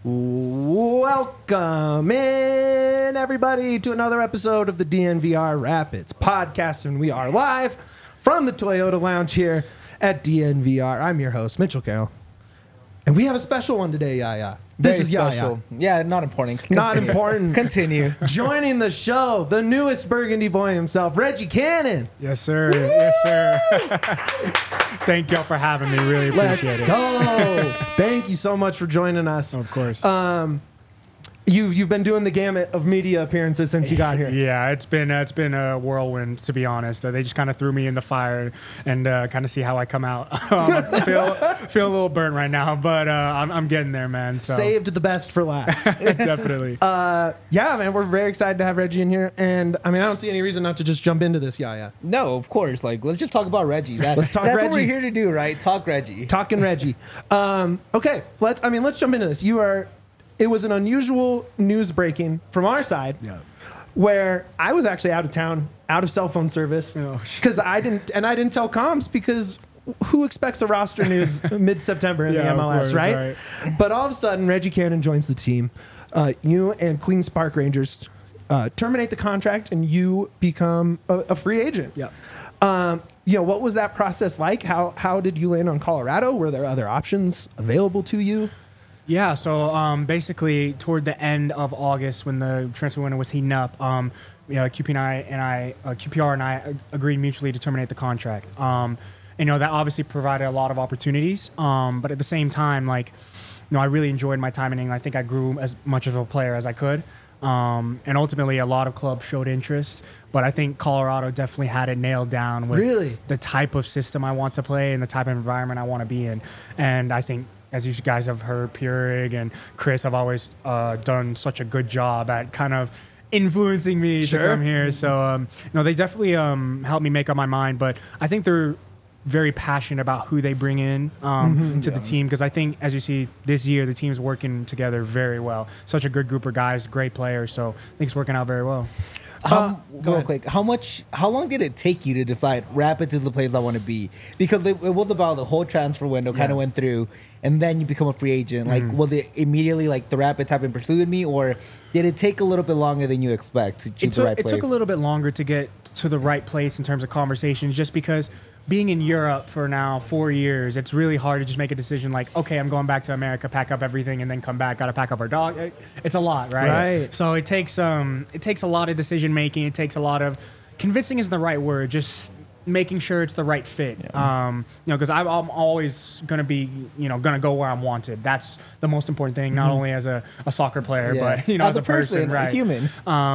Welcome in, everybody, to another episode of the DNVR Rapids podcast, and we are live from the Toyota Lounge here at DNVR. I'm your host, Mitchell Carroll, and we have a special one today, Yaya. This is Yaya. Yeah, not important. Continue. Not important. Continue. Joining the show, the newest Burgundy boy himself, Reggie Cannon. Yes, sir. Yes, sir. Thank y'all for having me. Really appreciate it. Let's go. Thank you so much for joining us. Of course. You've been doing the gamut of media appearances since you got here. Yeah, it's been a whirlwind, to be honest. They just kind of threw me in the fire and kind of see how I come out. I feel a little burnt right now, but I'm getting there, man. So. Saved the best for last. Definitely. Yeah, man, we're very excited to have Reggie in here, and I mean, I don't see any reason not to just jump into this. Yeah. No, of course. Let's just talk about Reggie. Let's talk That's Reggie. what we're here to do, right? Talk Reggie. Talking Reggie. Okay, let's jump into this. It was an unusual news breaking from our side, where I was actually out of town, out of cell phone service, because I didn't tell comms, because who expects a roster news mid-September in the MLS, course, right? But all of a sudden, Reggie Cannon joins the team. You and Queens Park Rangers terminate the contract, and you become a free agent. Yeah. What was that process like? How did you land on Colorado? Were there other options available to you? Yeah, so basically toward the end of August, when the transfer window was heating up, QPR and I agreed mutually to terminate the contract. That obviously provided a lot of opportunities, but at the same time, I really enjoyed my time in England. I think I grew as much of a player as I could. And ultimately, a lot of clubs showed interest, but I think Colorado definitely had it nailed down with the type of system I want to play and the type of environment I want to be in. And I think, as you guys have heard, Purig and Chris have always done such a good job at kind of influencing me to come here. So, they definitely helped me make up my mind. But I think they're very passionate about who they bring in to the team, because I think, as you see this year, the team's working together very well. Such a good group of guys, great players. So I think it's working out very well. Real quick, how long did it take you to decide Rapids is the place I want to be? Because it was about the whole transfer window kind of went through, and then you become a free agent. Was it immediately the Rapids have been pursuing me, or did it take a little bit longer than you expect to choose the right place? It took a little bit longer to get to the right place in terms of conversations, just because being in Europe for now 4 years, it's really hard to just make a decision okay, I'm going back to America, pack up everything, and then come back. Got to pack up our dog. It's a lot, right? Right. So it takes a lot of decision making. It takes a lot of convincing isn't the right word. Just making sure it's the right fit. Because I'm always going to be, going to go where I'm wanted. That's the most important thing, not only as a soccer player, but as a person, right? A human.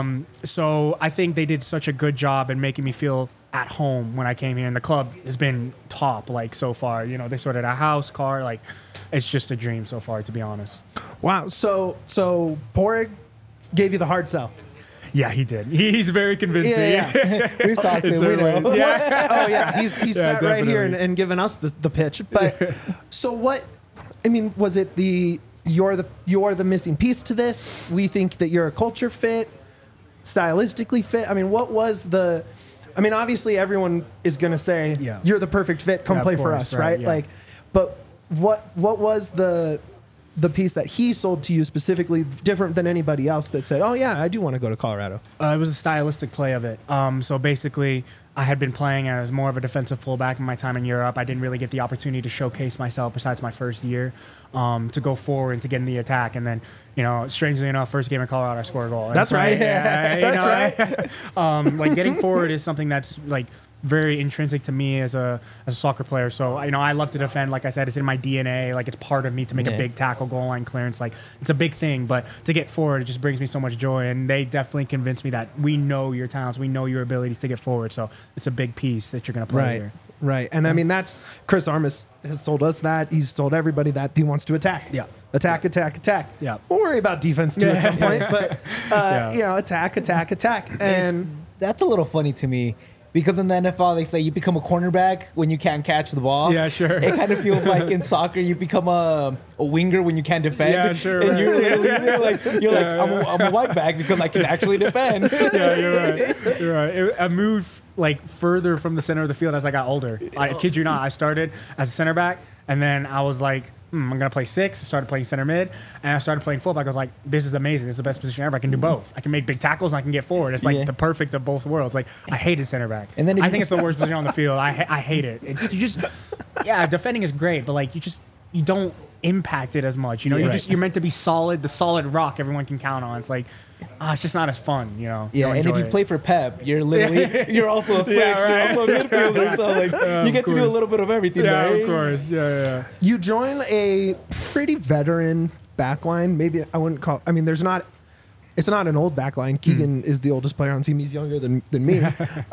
So I think they did such a good job in making me feel at home when I came here, and the club has been top so far. They sorted a house, car, it's just a dream so far, to be honest. Wow. So Purig gave you the hard sell. Yeah, he did. He's very convincing. Yeah. We've talked to him. We know. Yeah. Oh yeah. He's sat right here and given us the pitch. But so what? I mean, was it you're the missing piece to this? We think that you're a culture fit, stylistically fit. I mean, what was the? I mean, obviously everyone is going to say you're the perfect fit. Come play for us, right? Yeah. But what was the piece that he sold to you specifically different than anybody else that said, oh yeah, I do want to go to Colorado? It was a stylistic play of it. So basically, I had been playing as more of a defensive fullback in my time in Europe. I didn't really get the opportunity to showcase myself besides my first year, to go forward and to get in the attack. And then, strangely enough, first game in Colorado, I scored a goal. That's right. That's right. Getting forward is something that's very intrinsic to me as a soccer player. So, I love to defend. Like I said, it's in my DNA. It's part of me to make a big tackle, goal line clearance. It's a big thing. But to get forward, it just brings me so much joy. And they definitely convinced me that we know your talents. We know your abilities to get forward. So it's a big piece that you're going to play here. Right. And I mean, that's Chris Armas has told us that. He's told everybody that he wants to attack. Yeah. Attack. Yeah. We'll worry about defense too at some point. But, attack. And that's a little funny to me. Because in the NFL, they say you become a cornerback when you can't catch the ball. Yeah, sure. It kind of feels like in soccer, you become a winger when you can't defend. Yeah, sure. And you're literally I'm a white back because I can actually defend. Yeah, you're right. I moved further from the center of the field as I got older. I kid you not. I started as a center back, and then I was I'm gonna play 6. I started playing center mid, and I started playing fullback. I was like, this is amazing. This is the best position ever. I can do both. I can make big tackles and I can get forward. It's like the perfect of both worlds. Like I hated center back. And then I think it's the worst position on the field. I hate it. You just defending is great, but like you don't impact it as much. You know, you're meant to be solid, the solid rock everyone can count on. It's like, it's just not as fun, you know. Yeah, and if you play for Pep, you're literally you're also a flex, you're also a midfielder, so like you get to do a little bit of everything. Yeah, right? of course. Yeah. You join a pretty veteran backline. Maybe I wouldn't call. I mean, it's not an old backline. Keegan is the oldest player on the team. He's younger than me.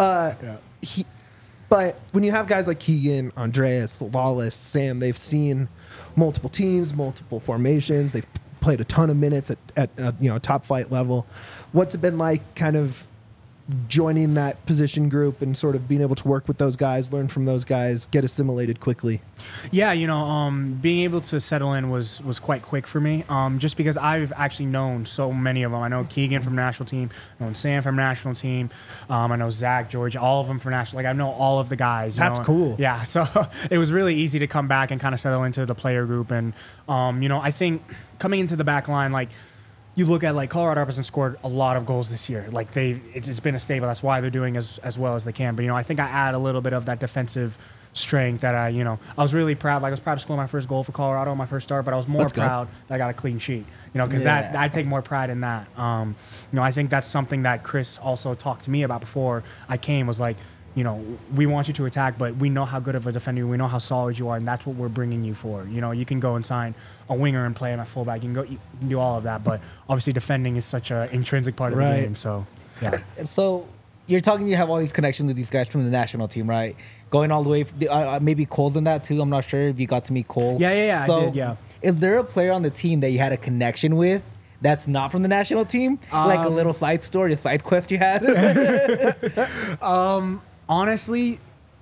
But when you have guys like Keegan, Andreas, Lawless, Sam, they've seen multiple teams, multiple formations. They've played a ton of minutes at top flight level. What's it been like kind of joining that position group and sort of being able to work with those guys, learn from those guys, get assimilated quickly? Yeah, being able to settle in was quite quick for me, just because I've actually known so many of them. I know Keegan from national team, I know Sam from national team, I know Zach, George, all of them from national. Like I know all of the guys. That's cool. Yeah, so it was really easy to come back and kind of settle into the player group, and I think coming into the back line, like, you look at like Colorado Rapids scored a lot of goals this year. Like it's been a staple. That's why they're doing as well as they can. But I think I add a little bit of that defensive strength that I was really proud. Like I was proud to score my first goal for Colorado on my first start, but I was more proud that I got a clean sheet. Because that I take more pride in that. I think that's something that Chris also talked to me about before I came. Was like, we want you to attack, but we know how good of a defender, we know how solid you are, and that's what we're bringing you for. You can go and sign a winger and play him at fullback. You can do all of that, but obviously defending is such an intrinsic part of the game. So, yeah. So you're talking, you have all these connections with these guys from the national team, right? Going all the way, maybe Cole's in that too. I'm not sure if you got to meet Cole. Yeah, so I did, yeah. Is there a player on the team that you had a connection with that's not from the national team? Like a little side story, a side quest you had? Honestly,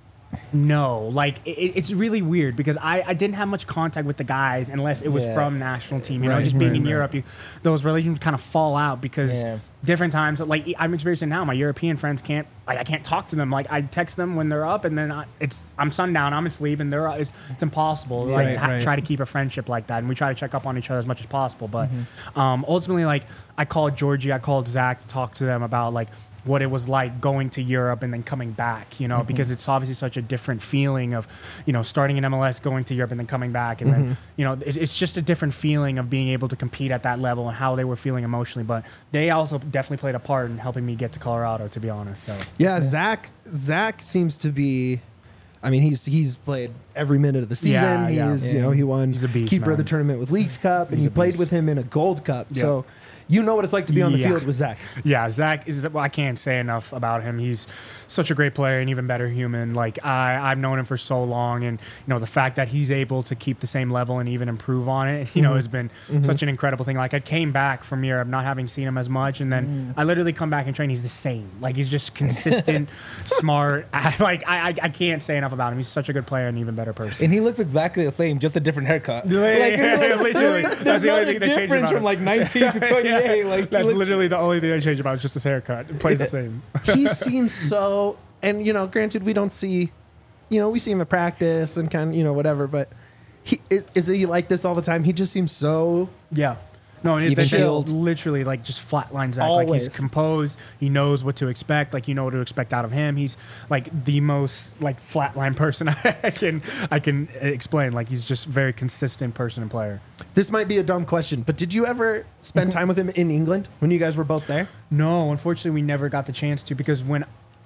no. Like it's really weird because I didn't have much contact with the guys unless it was from national team. Just being in Europe, those relations kind of fall out because different times. Like I'm experiencing now, my European friends I can't talk to them. Like I text them when they're up, and then I'm sundown, I'm asleep, and it's impossible. Try to keep a friendship like that, and we try to check up on each other as much as possible. But ultimately, like I called Georgie, I called Zach to talk to them about like what it was like going to Europe and then coming back, because it's obviously such a different feeling of, starting in MLS, going to Europe and then coming back. And then, it's just a different feeling of being able to compete at that level and how they were feeling emotionally. But they also definitely played a part in helping me get to Colorado, to be honest. So yeah. Zach seems to be, I mean, he's played every minute of the season. He won keeper of the tournament with Leagues Cup, and you played with him in a Gold Cup. Yeah. So you know what it's like to be on the field with Zach. Yeah, Zach is. Well, I can't say enough about him. He's such a great player and even better human. Like I've known him for so long, and the fact that he's able to keep the same level and even improve on it, has been such an incredible thing. Like I came back from Europe not having seen him as much, and then I literally come back and train. He's the same. Like he's just consistent, smart. I can't say enough about him. He's such a good player and even better person. And he looks exactly the same, just a different haircut. Literally, that's the only thing that changed about him. From like 19 to 28. Like that's literally the only thing I changed about him, just his haircut. It plays the same. He seems so, and granted we don't see, we see him at practice and kind of, whatever, but is he like this all the time? He just seems so No, and it's literally like just flatlines Zach. Like he's composed. He knows what to expect. Like what to expect out of him. He's like the most like flatline person I can explain. Like he's just very consistent person and player. This might be a dumb question, but did you ever spend time with him in England when you guys were both there? No, unfortunately, we never got the chance to because when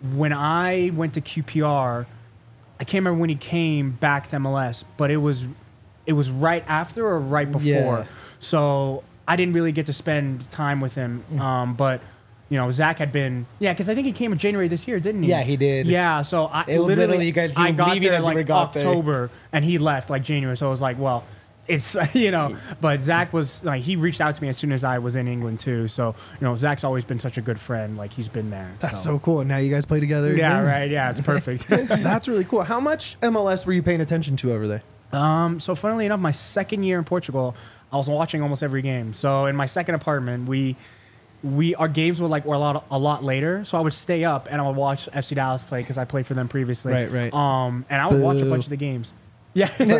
I went to QPR, I can't remember when he came back to MLS, but it was right after or right before. Yeah. So I didn't really get to spend time with him, but Zach had been because I think he came in January this year, didn't he? Yeah, he did. Yeah, so I literally you guys. I got there like October, and he left like January. So I was like, well, it's But Zach was like he reached out to me as soon as I was in England too. So Zach's always been such a good friend. Like he's been there. That's so cool. And now you guys play together. Yeah, again? right. Yeah, it's perfect. That's really cool. How much MLS were you paying attention to over there? So funnily enough, my second year in Portugal, I was watching almost every game. So in my second apartment, our games were a lot later. So I would stay up and I would watch FC Dallas play because I played for them previously. Right. And I would watch a bunch of the games. Yeah. We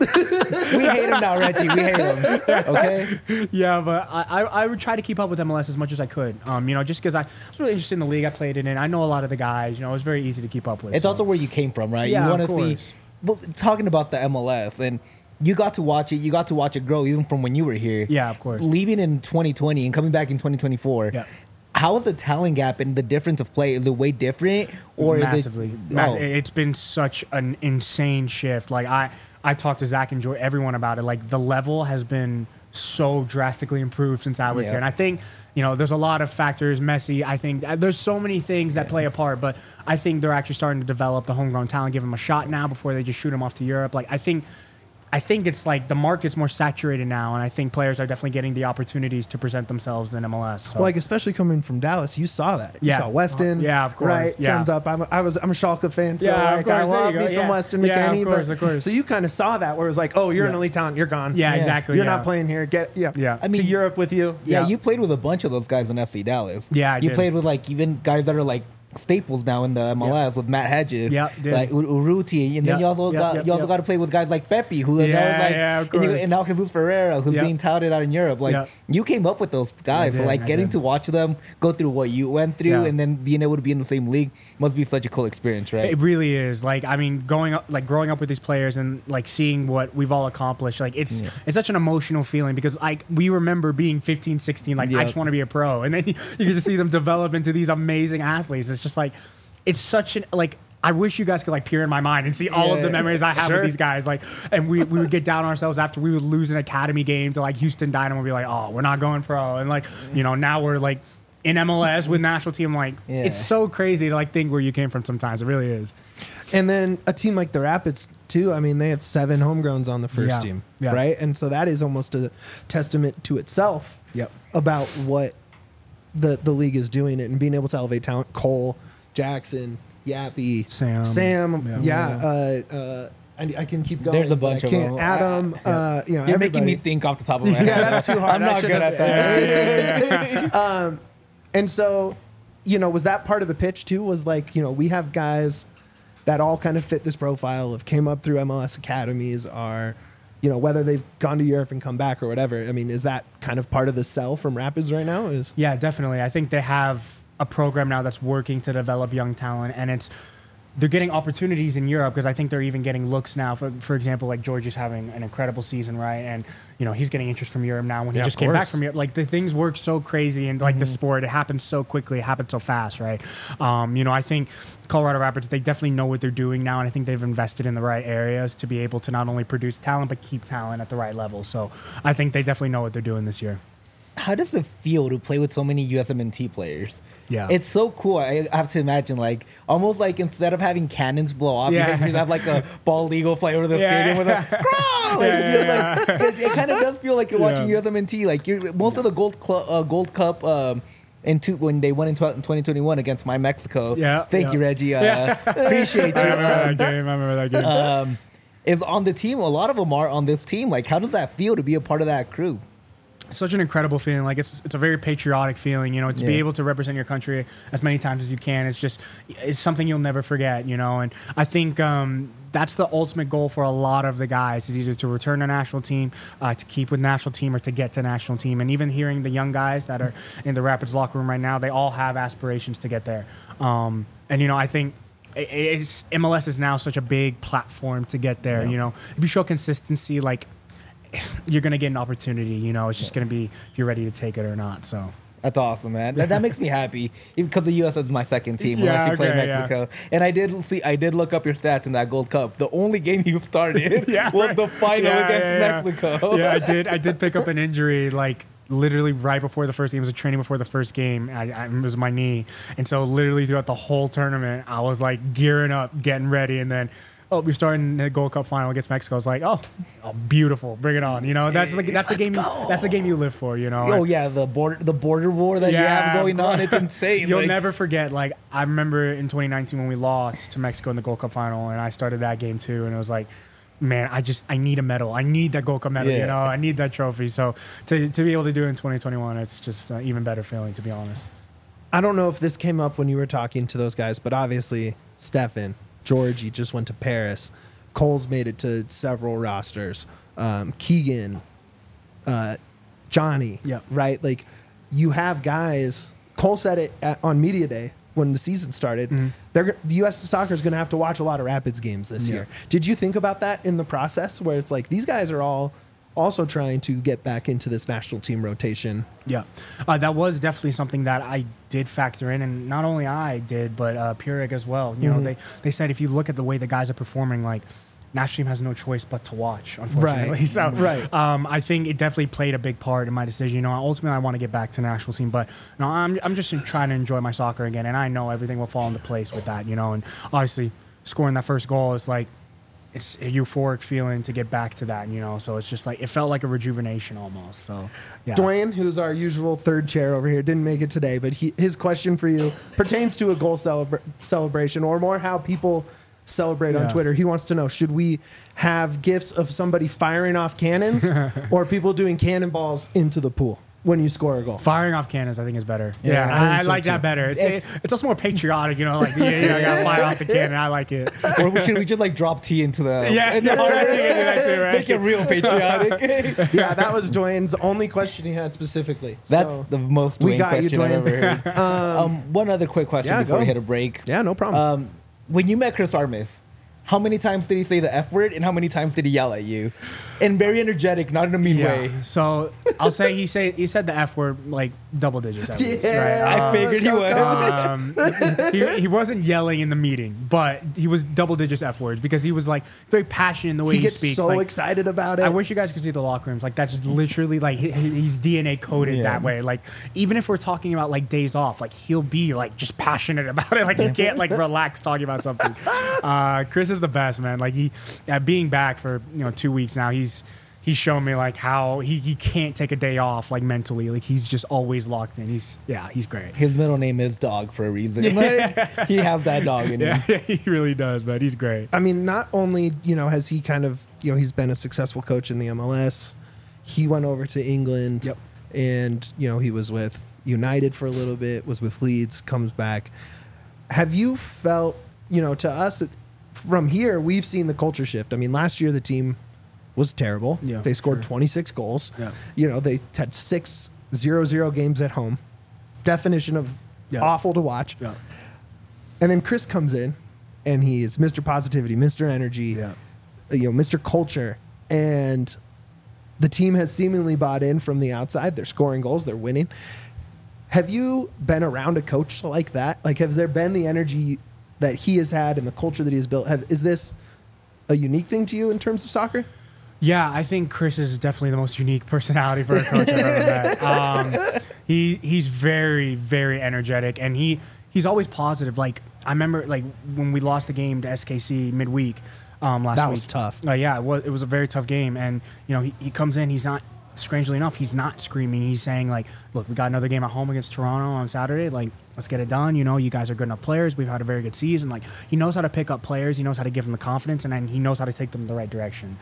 hate him now, Reggie. We hate him. Okay. Yeah, but I would try to keep up with MLS as much as I could. Just because I was really interested in the league I played in, and I know a lot of the guys. It was very easy to keep up with. It's also where you came from, right? Yeah, you want of to see. course. Well, talking about the MLS, and you got to watch it. You got to watch it grow, even from when you were here. Yeah, of course. Leaving in 2020 and coming back in 2024. Yeah. How is the talent gap and the difference of play? Is it way different, or Massively. is it? It's been such an insane shift. Like I talked to Zach and Joy, everyone about it. Like the level has been so drastically improved since I was Yeah. here, and I think there's a lot of factors. Messi, I think there's so many things that play a part, but I think they're actually starting to develop the homegrown talent, give them a shot now before they just shoot them off to Europe. Like I think it's like the market's more saturated now, and I think players are definitely getting the opportunities to present themselves in MLS. So. Well, like especially coming from Dallas, you saw that. You Yeah. saw Weston. Yeah, of course. Right, Yeah. comes up. I'm a Schalke fan, so Yeah, of like, course. I There love you me go. some Yeah. Weston Yeah, McKennie. of course, of course. So you kind of saw that where it was like, oh, you're an elite talent, you're gone. Yeah, Yeah. exactly. You're yeah. not playing here. Yeah. I mean, to Europe with you. Yeah, you played with a bunch of those guys in FC Dallas. Yeah, I you did. played with like even guys that are like staples now in the MLS with Matt Hedges, Yeah, did. like Urruti, and then Yep, you also yep, got yep, you also yep. got to play with guys like Pepe, who Yeah, now is like, yeah, of and, course. and now Jesus Ferreira, who's Yep. being touted out in Europe. Like Yep. you came up with those guys, so did, like I getting did. to watch them go through what you went through, Yeah. and then being able to be in the same league must be such a cool experience, right? It really is. Like, I mean, growing up with these players and like seeing what we've all accomplished, like it's such an emotional feeling because like we remember being 15, 16, like I Yep. just want to be a pro. And then you get to see them develop into these amazing athletes. It's just like, it's such an, like, I wish you guys could like peer in my mind and see all of the Yeah. memories I have Sure. with these guys. Like, and we would get down on ourselves after we would lose an academy game to like Houston Dynamo and be like, oh, we're not going pro. And like, now we're like in MLS with national team. Like, Yeah. it's so crazy to like think where you came from sometimes. It really is. And then a team like the Rapids too. I mean, they have 7 homegrowns on the first Yeah. team, Yeah. right? And so that is almost a testament to itself. Yep. About what the league is doing and being able to elevate talent. Cole, Jackson, Yappy, Sam. I can keep going. There's a but I bunch of can't. them. Adam, You're making me think off the top of my head. Yeah, that's too hard. I'm I not should good have- at that. And so, was that part of the pitch too? Was like, we have guys that all kind of fit this profile of came up through MLS academies, are, whether they've gone to Europe and come back or whatever. I mean, is that kind of part of the sell from Rapids right now? Yeah, definitely. I think they have a program now that's working to develop young talent, and they're getting opportunities in Europe because I think they're even getting looks now. For example, like George is having an incredible season, right? And he's getting interest from Europe now when he Yeah, just of came back course. from Europe. Like the things work so crazy, and like the sport, it happens so quickly, it happens so fast, right? I think Colorado Rapids, they definitely know what they're doing now, and I think they've invested in the right areas to be able to not only produce talent but keep talent at the right level. So I think they definitely know what they're doing this year. How does it feel to play with so many USMNT players? Yeah. It's so cool. I have to imagine, like, almost like instead of having cannons blow off, Yeah. you have like a bald eagle fly over the stadium with a "Growl!" Like, it's just like, it kind of does feel like you're watching USMNT. Like, most of the Gold Cup when they won in 2021 against My Mexico. Yeah. Thank you, Reggie. Appreciate you. I remember that game. Is on the team. A lot of them are on this team. Like, how does that feel to be a part of that crew? Such an incredible feeling. Like it's a very patriotic feeling, to be able to represent your country as many times as you can. It's something you'll never forget, And I think that's the ultimate goal for a lot of the guys is either to return to national team, to keep with national team, or to get to national team. And even hearing the young guys that are in the Rapids locker room right now, they all have aspirations to get there. I think MLS is now such a big platform to get there. If you show consistency, like, you're going to get an opportunity, it's just going to be if you're ready to take it or not. So That's awesome, man. That makes me happy, even because the U.S. is my second team. Unless you play Mexico, and I did look up your stats in that Gold Cup. The only game you started was the final against Mexico. Yeah, I did pick up an injury like literally right before the first game. It was a training before the first game. It was my knee, and so literally throughout the whole tournament, I was like gearing up, getting ready, and then. Oh, we're starting the Gold Cup final against Mexico. I was like, oh, beautiful, bring it on. That's the game. That's the game you live for. Oh yeah, the border war that you have going on. It's insane. You'll never forget. Like I remember in 2019 when we lost to Mexico in the Gold Cup final, and I started that game too, and it was like, man, I need a medal. I need that Gold Cup medal. I need that trophy. So to be able to do it in 2021, it's just an even better feeling, to be honest. I don't know if this came up when you were talking to those guys, but obviously Stefan, Georgie just went to Paris. Cole's made it to several rosters. Keegan, Johnny, Yeah. right? Like you have guys. Cole said it on Media Day when the season started. The U.S. Soccer is going to have to watch a lot of Rapids games this year. Did you think about that in the process, where it's like these guys are all also trying to get back into this national team rotation? Yeah, that was definitely something that I did factor in, and not only I did, but Purig as well. You know, they said if you look at the way the guys are performing, like national team has no choice but to watch, unfortunately. Right. So, Right. I think it definitely played a big part in my decision. You know, ultimately I want to get back to national team, but no, I'm just trying to enjoy my soccer again, and I know everything will fall into place with that. You know, and obviously scoring that first goal is like, it's a euphoric feeling to get back to that, you know. So it's just like, it felt like a rejuvenation almost. So, yeah. Dwayne, who's our usual third chair over here, didn't make it today, but his question for you pertains to a goal celebration, or more how people celebrate on Twitter. He wants to know, should we have gifs of somebody firing off cannons or people doing cannonballs into the pool when you score a goal? Firing off cannons, I think, is better. Yeah, I I think so like too. that better. It's also more patriotic, you know, like, I got to fire off the cannon. I like it. Or should we just like drop tea into the Yeah, no, I think I do that too, right? make it real patriotic? Yeah, that was Dwayne's only question he had specifically. That's So, the most we Dwayne got you, question I've Dwayne. ever heard. One other quick question Yeah, before go. we hit a break. yeah, no problem. When you met Chris Armas, how many times did he say the F word and how many times did he yell at you? And very energetic, not in a mean way. So I'll say he said the F word like double digits at least, Yeah. right? I figured he would. He wasn't yelling in the meeting, but he was double digits F words because he was like very passionate in the way he he gets speaks. so like, excited about it. I wish you guys could see the locker rooms. Like that's literally like he's DNA coded Yeah. that way. Like even if we're talking about like days off, like he'll be like just passionate about it. Like he can't like relax talking about something. Chris is the best, man. Like he being back for 2 weeks now, he's shown me like how he can't take a day off like mentally. Like he's just always locked in. He's great. His middle name is Dog for a reason. Like, he has that dog in him. Yeah, he really does, man. He's great. I mean, not only, has he kind of, he's been a successful coach in the MLS. He went over to England. Yep. And, he was with United for a little bit, was with Leeds, comes back. Have you felt, to us, from here, we've seen the culture shift. I mean, last year the team was terrible. Yeah, they scored 26 goals. Yeah. They had 6 0-0 games at home. Definition of awful to watch. Yeah. And then Chris comes in, and he is Mr. Positivity, Mr. Energy, Mr. Culture, and the team has seemingly bought in from the outside. They're scoring goals. They're winning. Have you been around a coach like that? Like, has there been the energy that he has had and the culture that he has built? Is this a unique thing to you in terms of soccer? Yeah, I think Chris is definitely the most unique personality for a coach I've ever met. He's very, very energetic, and he's always positive. Like I remember, like when we lost the game to SKC midweek last week. That was tough. Yeah, it was a very tough game, and he comes in. He's not. Strangely enough, he's not screaming. He's saying like, "Look, we got another game at home against Toronto on Saturday. Like, let's get it done. You guys are good enough players. We've had a very good season. Like, he knows how to pick up players. He knows how to give them the confidence, and then he knows how to take them in the right direction.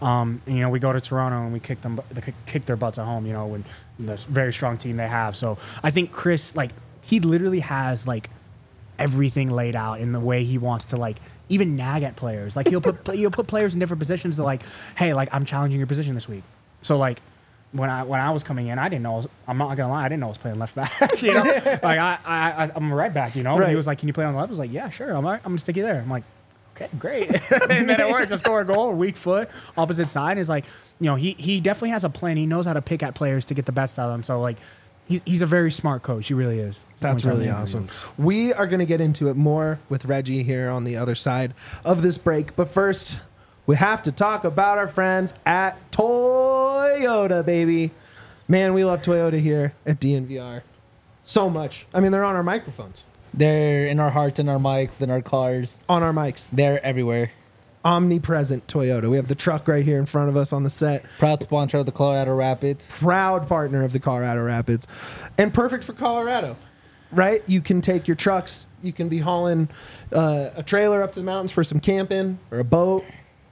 We go to Toronto and we kick their butts at home. When the very strong team they have. So I think Chris, like, he literally has like everything laid out in the way he wants to like even nag at players. Like he'll put players in different positions to like, hey, like I'm challenging your position this week. So like. When I was coming in, I didn't know. I'm not gonna lie, I didn't know I was playing left back. Like I'm a right back. Right. And he was like, "Can you play on the left?" I was like, "Yeah, sure. I'm gonna stick you there." I'm like, "Okay, great." And then it worked. To score a goal, weak foot, opposite side is like, he definitely has a plan. He knows how to pick at players to get the best out of them. So like, he's a very smart coach. He really is. That's really awesome. We are gonna get into it more with Reggie here on the other side of this break, but first. We have to talk about our friends at Toyota, baby. Man, we love Toyota here at DNVR so much. I mean, they're on our microphones. They're in our hearts, in our mics, in our cars. On our mics. They're everywhere. Omnipresent Toyota. We have the truck right here in front of us on the set. Proud sponsor of the Colorado Rapids. Proud partner of the Colorado Rapids. And perfect for Colorado, right? You can take your trucks. You can be hauling a trailer up to the mountains for some camping or a boat.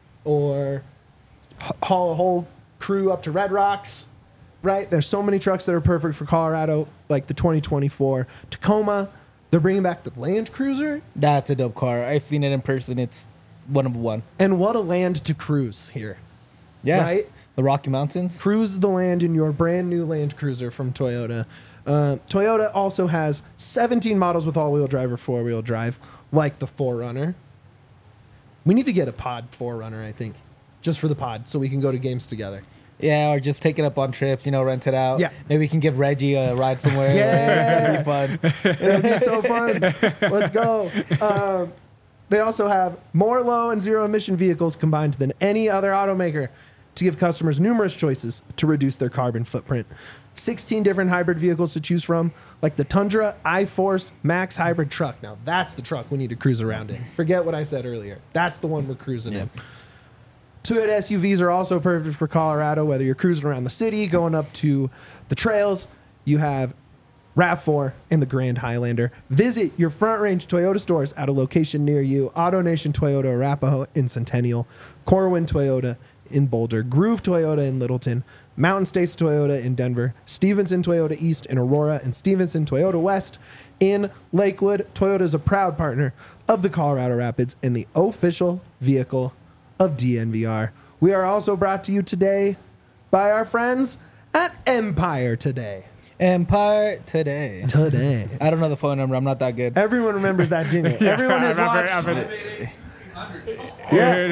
Or haul a whole crew up to Red Rocks, right? There's so many trucks that are perfect for Colorado, like the 2024 Tacoma. They're bringing back the Land Cruiser. That's a dope car. I've seen it in person. It's one of one. And what a land to cruise here. Yeah. Right? The Rocky Mountains. Cruise the land in your brand new Land Cruiser from Toyota. Toyota also has 17 models with all-wheel drive or four-wheel drive, like the 4Runner. We need to get a pod 4Runner, I think, just for the pod, so we can go to games together. Yeah, or just take it up on trips, rent it out. Yeah. Maybe we can give Reggie a ride somewhere. Yeah. That'd be fun. It'll be so fun. Let's go. They also have more low and zero emission vehicles combined than any other automaker to give customers numerous choices to reduce their carbon footprint. 16 different hybrid vehicles to choose from, like the Tundra iForce Max hybrid truck. Now, that's the truck we need to cruise around in. Forget what I said earlier. That's the one we're cruising in. Toyota SUVs are also perfect for Colorado, whether you're cruising around the city, going up to the trails. You have RAV4 and the Grand Highlander. Visit your Front Range Toyota stores at a location near you. AutoNation Toyota Arapahoe in Centennial, Corwin Toyota in Boulder, Groove Toyota in Littleton, Mountain States Toyota in Denver, Stevenson Toyota East in Aurora, and Stevenson Toyota West in Lakewood. Toyota is a proud partner of the Colorado Rapids and the official vehicle of DNVR. We are also brought to you today by our friends at Empire Today. Empire Today. I don't know the phone number. I'm not that good. Everyone remembers that jingle. Everyone has watched. Yeah.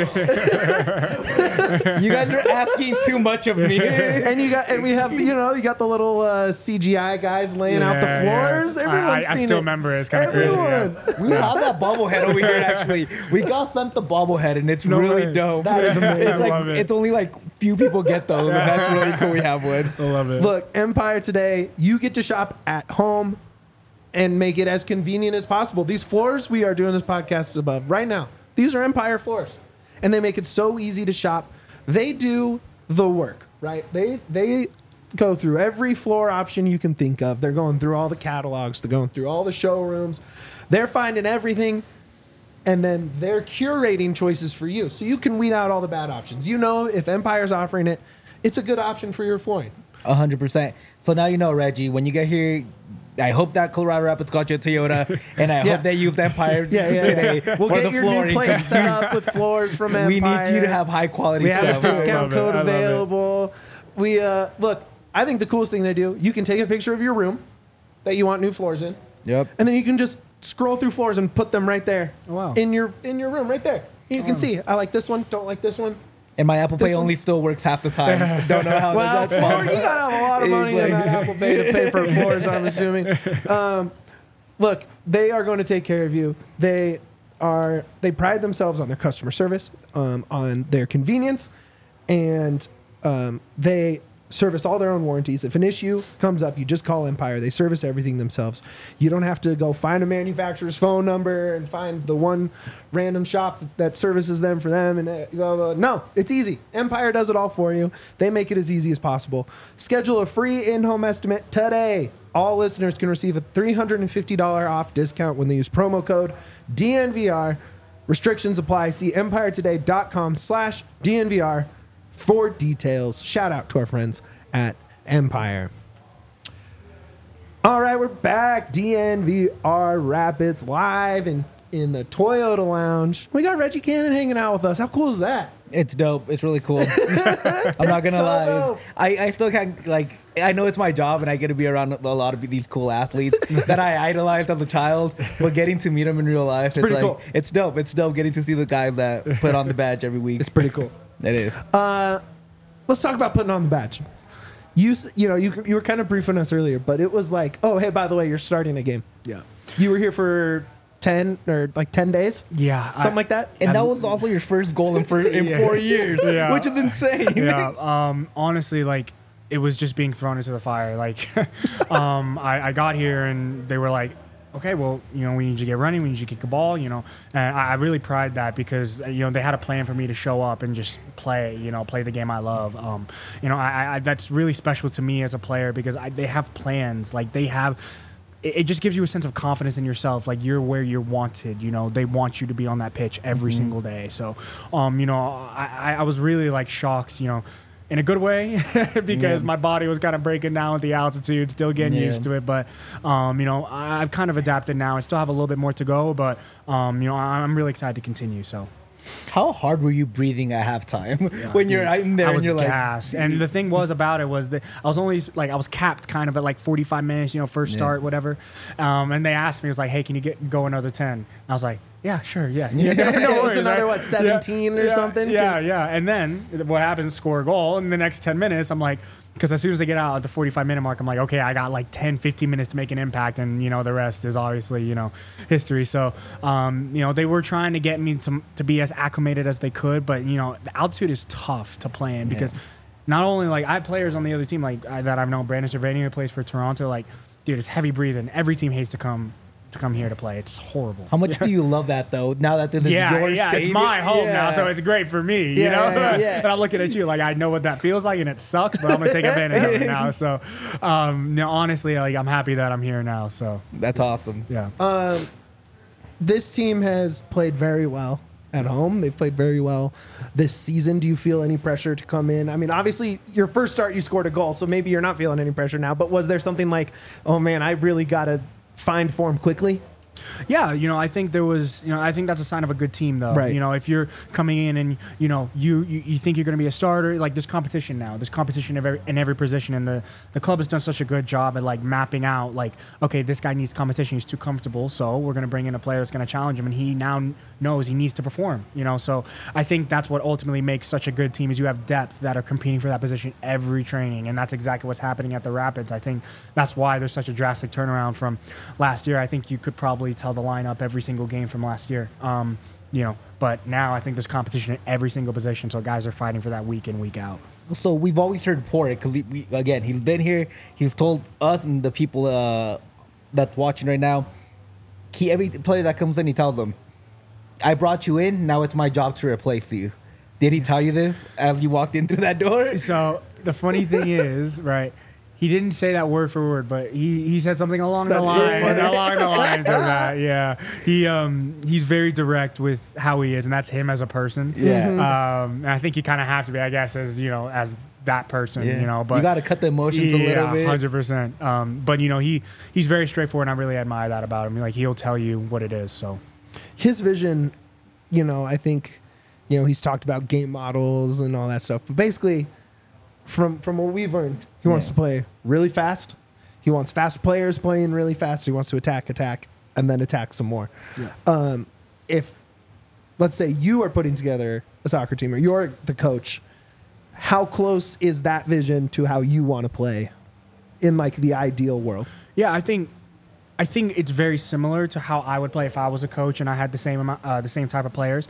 You guys are asking too much of me. and we have you got the little CGI guys laying out the floors. Everyone's seen I it. still remember it. It's kind of crazy. Yeah. We have that bobblehead over here. Actually, we got sent the bobblehead, and it's really way. dope. That is amazing. It's I love it. it's only like few people get those, and that's really cool. We have one. I love it. Look, Empire Today, you get to shop at home and make it as convenient as possible. These floors we are doing this podcast above right now, these are Empire floors. And they make it so easy to shop. They do the work, right? They go through every floor option you can think of. They're going through all the catalogs. They're going through all the showrooms. They're finding everything. And then they're curating choices for you. So you can weed out all the bad options. If Empire's offering it, it's a good option for your flooring. 100%. So now Reggie, when you get here, I hope that Colorado Rapids got you a Toyota, and I hope they used Empire today. We'll for get the your flooring, new place set up with floors from Empire. We need you to have high quality We stuff. have a discount code I love it. available. We look. I think the coolest thing they do. You can take a picture of your room that you want new floors in. Yep. And then you can just scroll through floors and put them right there. Oh, wow. In your room, right there. You can see. I like this one. Don't like this one. And my Apple Pay This one- only still works half the time. Don't know how Well, that's fun. you gotta have a lot of money in that Apple Pay to pay for floors. I'm assuming. Look, they are going to take care of you. They pride themselves on their customer service, on their convenience, and they service all their own warranties. If an issue comes up, you just call Empire. They service everything themselves. You don't have to go find a manufacturer's phone number and find the one random shop that services them for them. And blah, blah. No, it's easy. Empire does it all for you. They make it as easy as possible. Schedule a free in-home estimate today. All listeners can receive a $350 off discount when they use promo code DNVR. Restrictions apply. See empiretoday.com/DNVR for details. Shout out to our friends at Empire. All right, we're back. DNVR Rapids live in the Toyota Lounge. We got Reggie Cannon hanging out with us. How cool is that? It's dope. It's really cool. I'm not gonna so lie. dope. I still can't I know it's my job and I get to be around a lot of these cool athletes that I idolized as a child. But getting to meet them in real life, it's pretty like cool. it's dope. It's dope getting to see the guys that put on the badge every week. It's pretty cool. It is. Let's talk about putting on the badge. You were kind of briefing us earlier, but it was like, oh, hey, by the way, you're starting a game. Yeah. You were here for 10 days? Yeah. Something like that? And that was also your first goal in 4 years, Yeah. which is insane. Yeah. Honestly, it was just being thrown into the fire. I got here and they were like, okay, well, we need you to get running. We need you to kick a ball, And I really pride that because, they had a plan for me to show up and just play the game I love. I that's really special to me as a player because they have plans. It just gives you a sense of confidence in yourself. You're where you're wanted. They want you to be on that pitch every single day. So, I was really shocked, in a good way because my body was kind of breaking down with the altitude, still getting used to it. But, I've kind of adapted now. I still have a little bit more to go, but, I'm really excited to continue. So. How hard were you breathing at halftime when you're in there I was and you're gassed. And the thing was about it was that I was only like I was capped kind of at like 45 minutes, first start, whatever. And they asked me, it was like, hey, can you go another 10? And I was like, yeah, sure, yeah. No it was worries, another right? 17 or something. Yeah. And then what happens? Score a goal in the next 10 minutes. I'm like, because as soon as I get out at the 45-minute mark, I'm like, okay, I got like 10, 15 minutes to make an impact, and the rest is obviously history. So they were trying to get me to be as acclimated as they could, but the altitude is tough to play in because not only like I have players on the other team like that I've known, Brandon Cervania who plays for Toronto, like dude, it's heavy breathing. Every team hates to come here to play. It's horrible. How much do you love that though? Now that this is your stadium? It's my home now, so it's great for me. Yeah. And I'm looking at you like I know what that feels like, and it sucks, but I'm gonna take advantage of it now. So, honestly, like I'm happy that I'm here now. So that's awesome. Yeah. This team has played very well at home. They've played very well this season. Do you feel any pressure to come in? I mean, obviously, your first start, you scored a goal, so maybe you're not feeling any pressure now. But was there something like, oh man, I really got to find form quickly? Yeah, I think there was, I think that's a sign of a good team, though. Right. If you're coming in and you think you're going to be a starter, like there's competition now. There's competition in every position, and the club has done such a good job at like mapping out, like, okay, this guy needs competition. He's too comfortable, so we're going to bring in a player that's going to challenge him, and he now knows he needs to perform. So I think that's what ultimately makes such a good team is you have depth that are competing for that position every training, and that's exactly what's happening at the Rapids. I think that's why there's such a drastic turnaround from last year. I think you could probably tell the lineup every single game from last year. But now I think there's competition in every single position, so guys are fighting for that week in, week out. So we've always heard Porrick because he's been here. He's told us and the people that's watching right now. Every player that comes in, he tells them, "I brought you in. Now it's my job to replace you." Did he tell you this as you walked in through that door? So the funny thing is, right? He didn't say that word for word, but he said something along the lines of that. Yeah, he's very direct with how he is, and that's him as a person. Yeah. And I think you kind of have to be, I guess, as as that person. But you got to cut the emotions a little bit. 100%. But he's very straightforward, and I really admire that about him. Like he'll tell you what it is. So His vision, I think, he's talked about game models and all that stuff, but basically, from what we've learned, he wants to play really fast. He wants fast players playing really fast. He wants to attack, and then attack some more. Yeah. If, let's say, you are putting together a soccer team or you're the coach, how close is that vision to how you want to play in like the ideal world? Yeah, I think it's very similar to how I would play if I was a coach and I had the same type of players.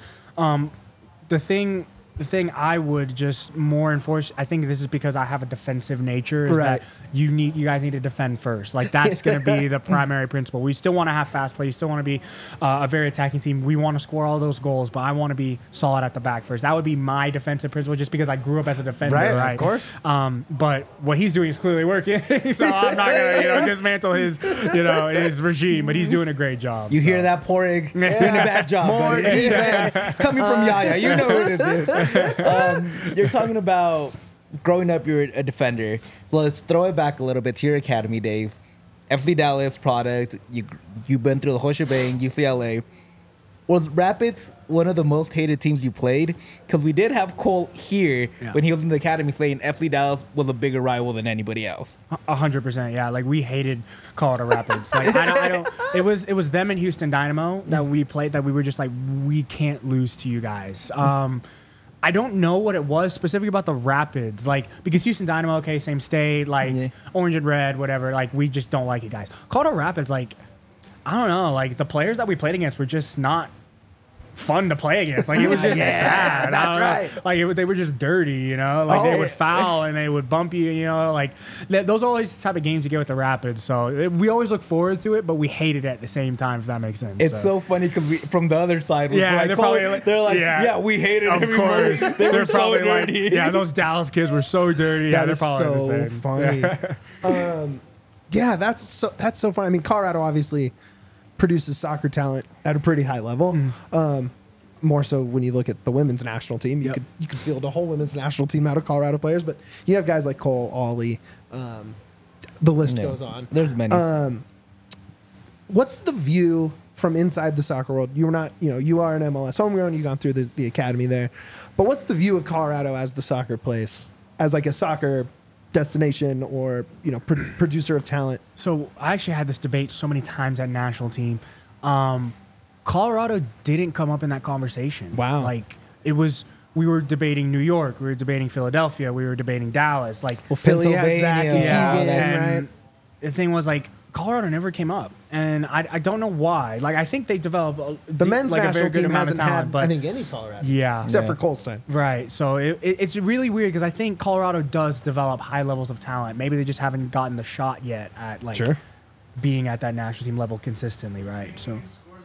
The thing I would just more enforce, I think this is because I have a defensive nature, is that you guys need to defend first. Like that's going to be the primary principle. We still want to have fast play. You still want to be a very attacking team. We want to score all those goals, but I want to be solid at the back first. That would be my defensive principle, just because I grew up as a defender, right? Of course. But what he's doing is clearly working, so I'm not going to dismantle his regime. But he's doing a great job. You hear that, Porrick? Doing a bad job. More defense coming from Yaya. You know who this is. You're talking about growing up, you're a defender. So let's throw it back a little bit to your academy days. FC Dallas product. You've been through the whole shebang. UCLA. Was Rapids one of the most hated teams you played? Because we did have Cole here when he was in the academy saying FC Dallas was a bigger rival than anybody else. 100%, yeah. Like we hated Colorado Rapids. Like I don't. It was them and Houston Dynamo that we played. That we were just like, we can't lose to you guys. I don't know what it was specifically about the Rapids, like because Houston Dynamo, okay, same state, like orange and red, whatever. Like we just don't like you guys. Colorado Rapids, like I don't know, like the players that we played against were just not fun to play against. Like it was just bad. That's right. Like they were just dirty, Like they would foul and they would bump you, Like those are always the type of games you get with the Rapids. So we always look forward to it, but we hate it at the same time. If that makes sense. It's so funny because from the other side, yeah, like, they're like, yeah, we hate it. Of course, they're probably so dirty. Like, yeah, those Dallas kids were so dirty. Yeah, they're probably so the same. Funny. Yeah, that's so funny. I mean, Colorado obviously produces soccer talent at a pretty high level. More so when you look at the women's national team, you could field a whole women's national team out of Colorado players, but you have guys like Cole, Ollie, the list goes on. There's many. What's the view from inside the soccer world. You were not, you are an MLS homegrown. You've gone through the academy there. But what's the view of Colorado as the soccer place, as like a soccer destination or, producer of talent? So I actually had this debate so many times at national team. Colorado didn't come up in that conversation. Wow. Like we were debating New York, we were debating Philadelphia, we were debating Dallas. Like, Philly has Zach and Keegan, and right? the thing was like Colorado never came up, and I don't know why. Like, I think they developed the men's like a national very good team amount of hasn't talent, had, but I think, any Colorado. yeah, except for Colstein. Right. So it's really weird because I think Colorado does develop high levels of talent. Maybe they just haven't gotten the shot yet at like being at that national team level consistently. Right. So.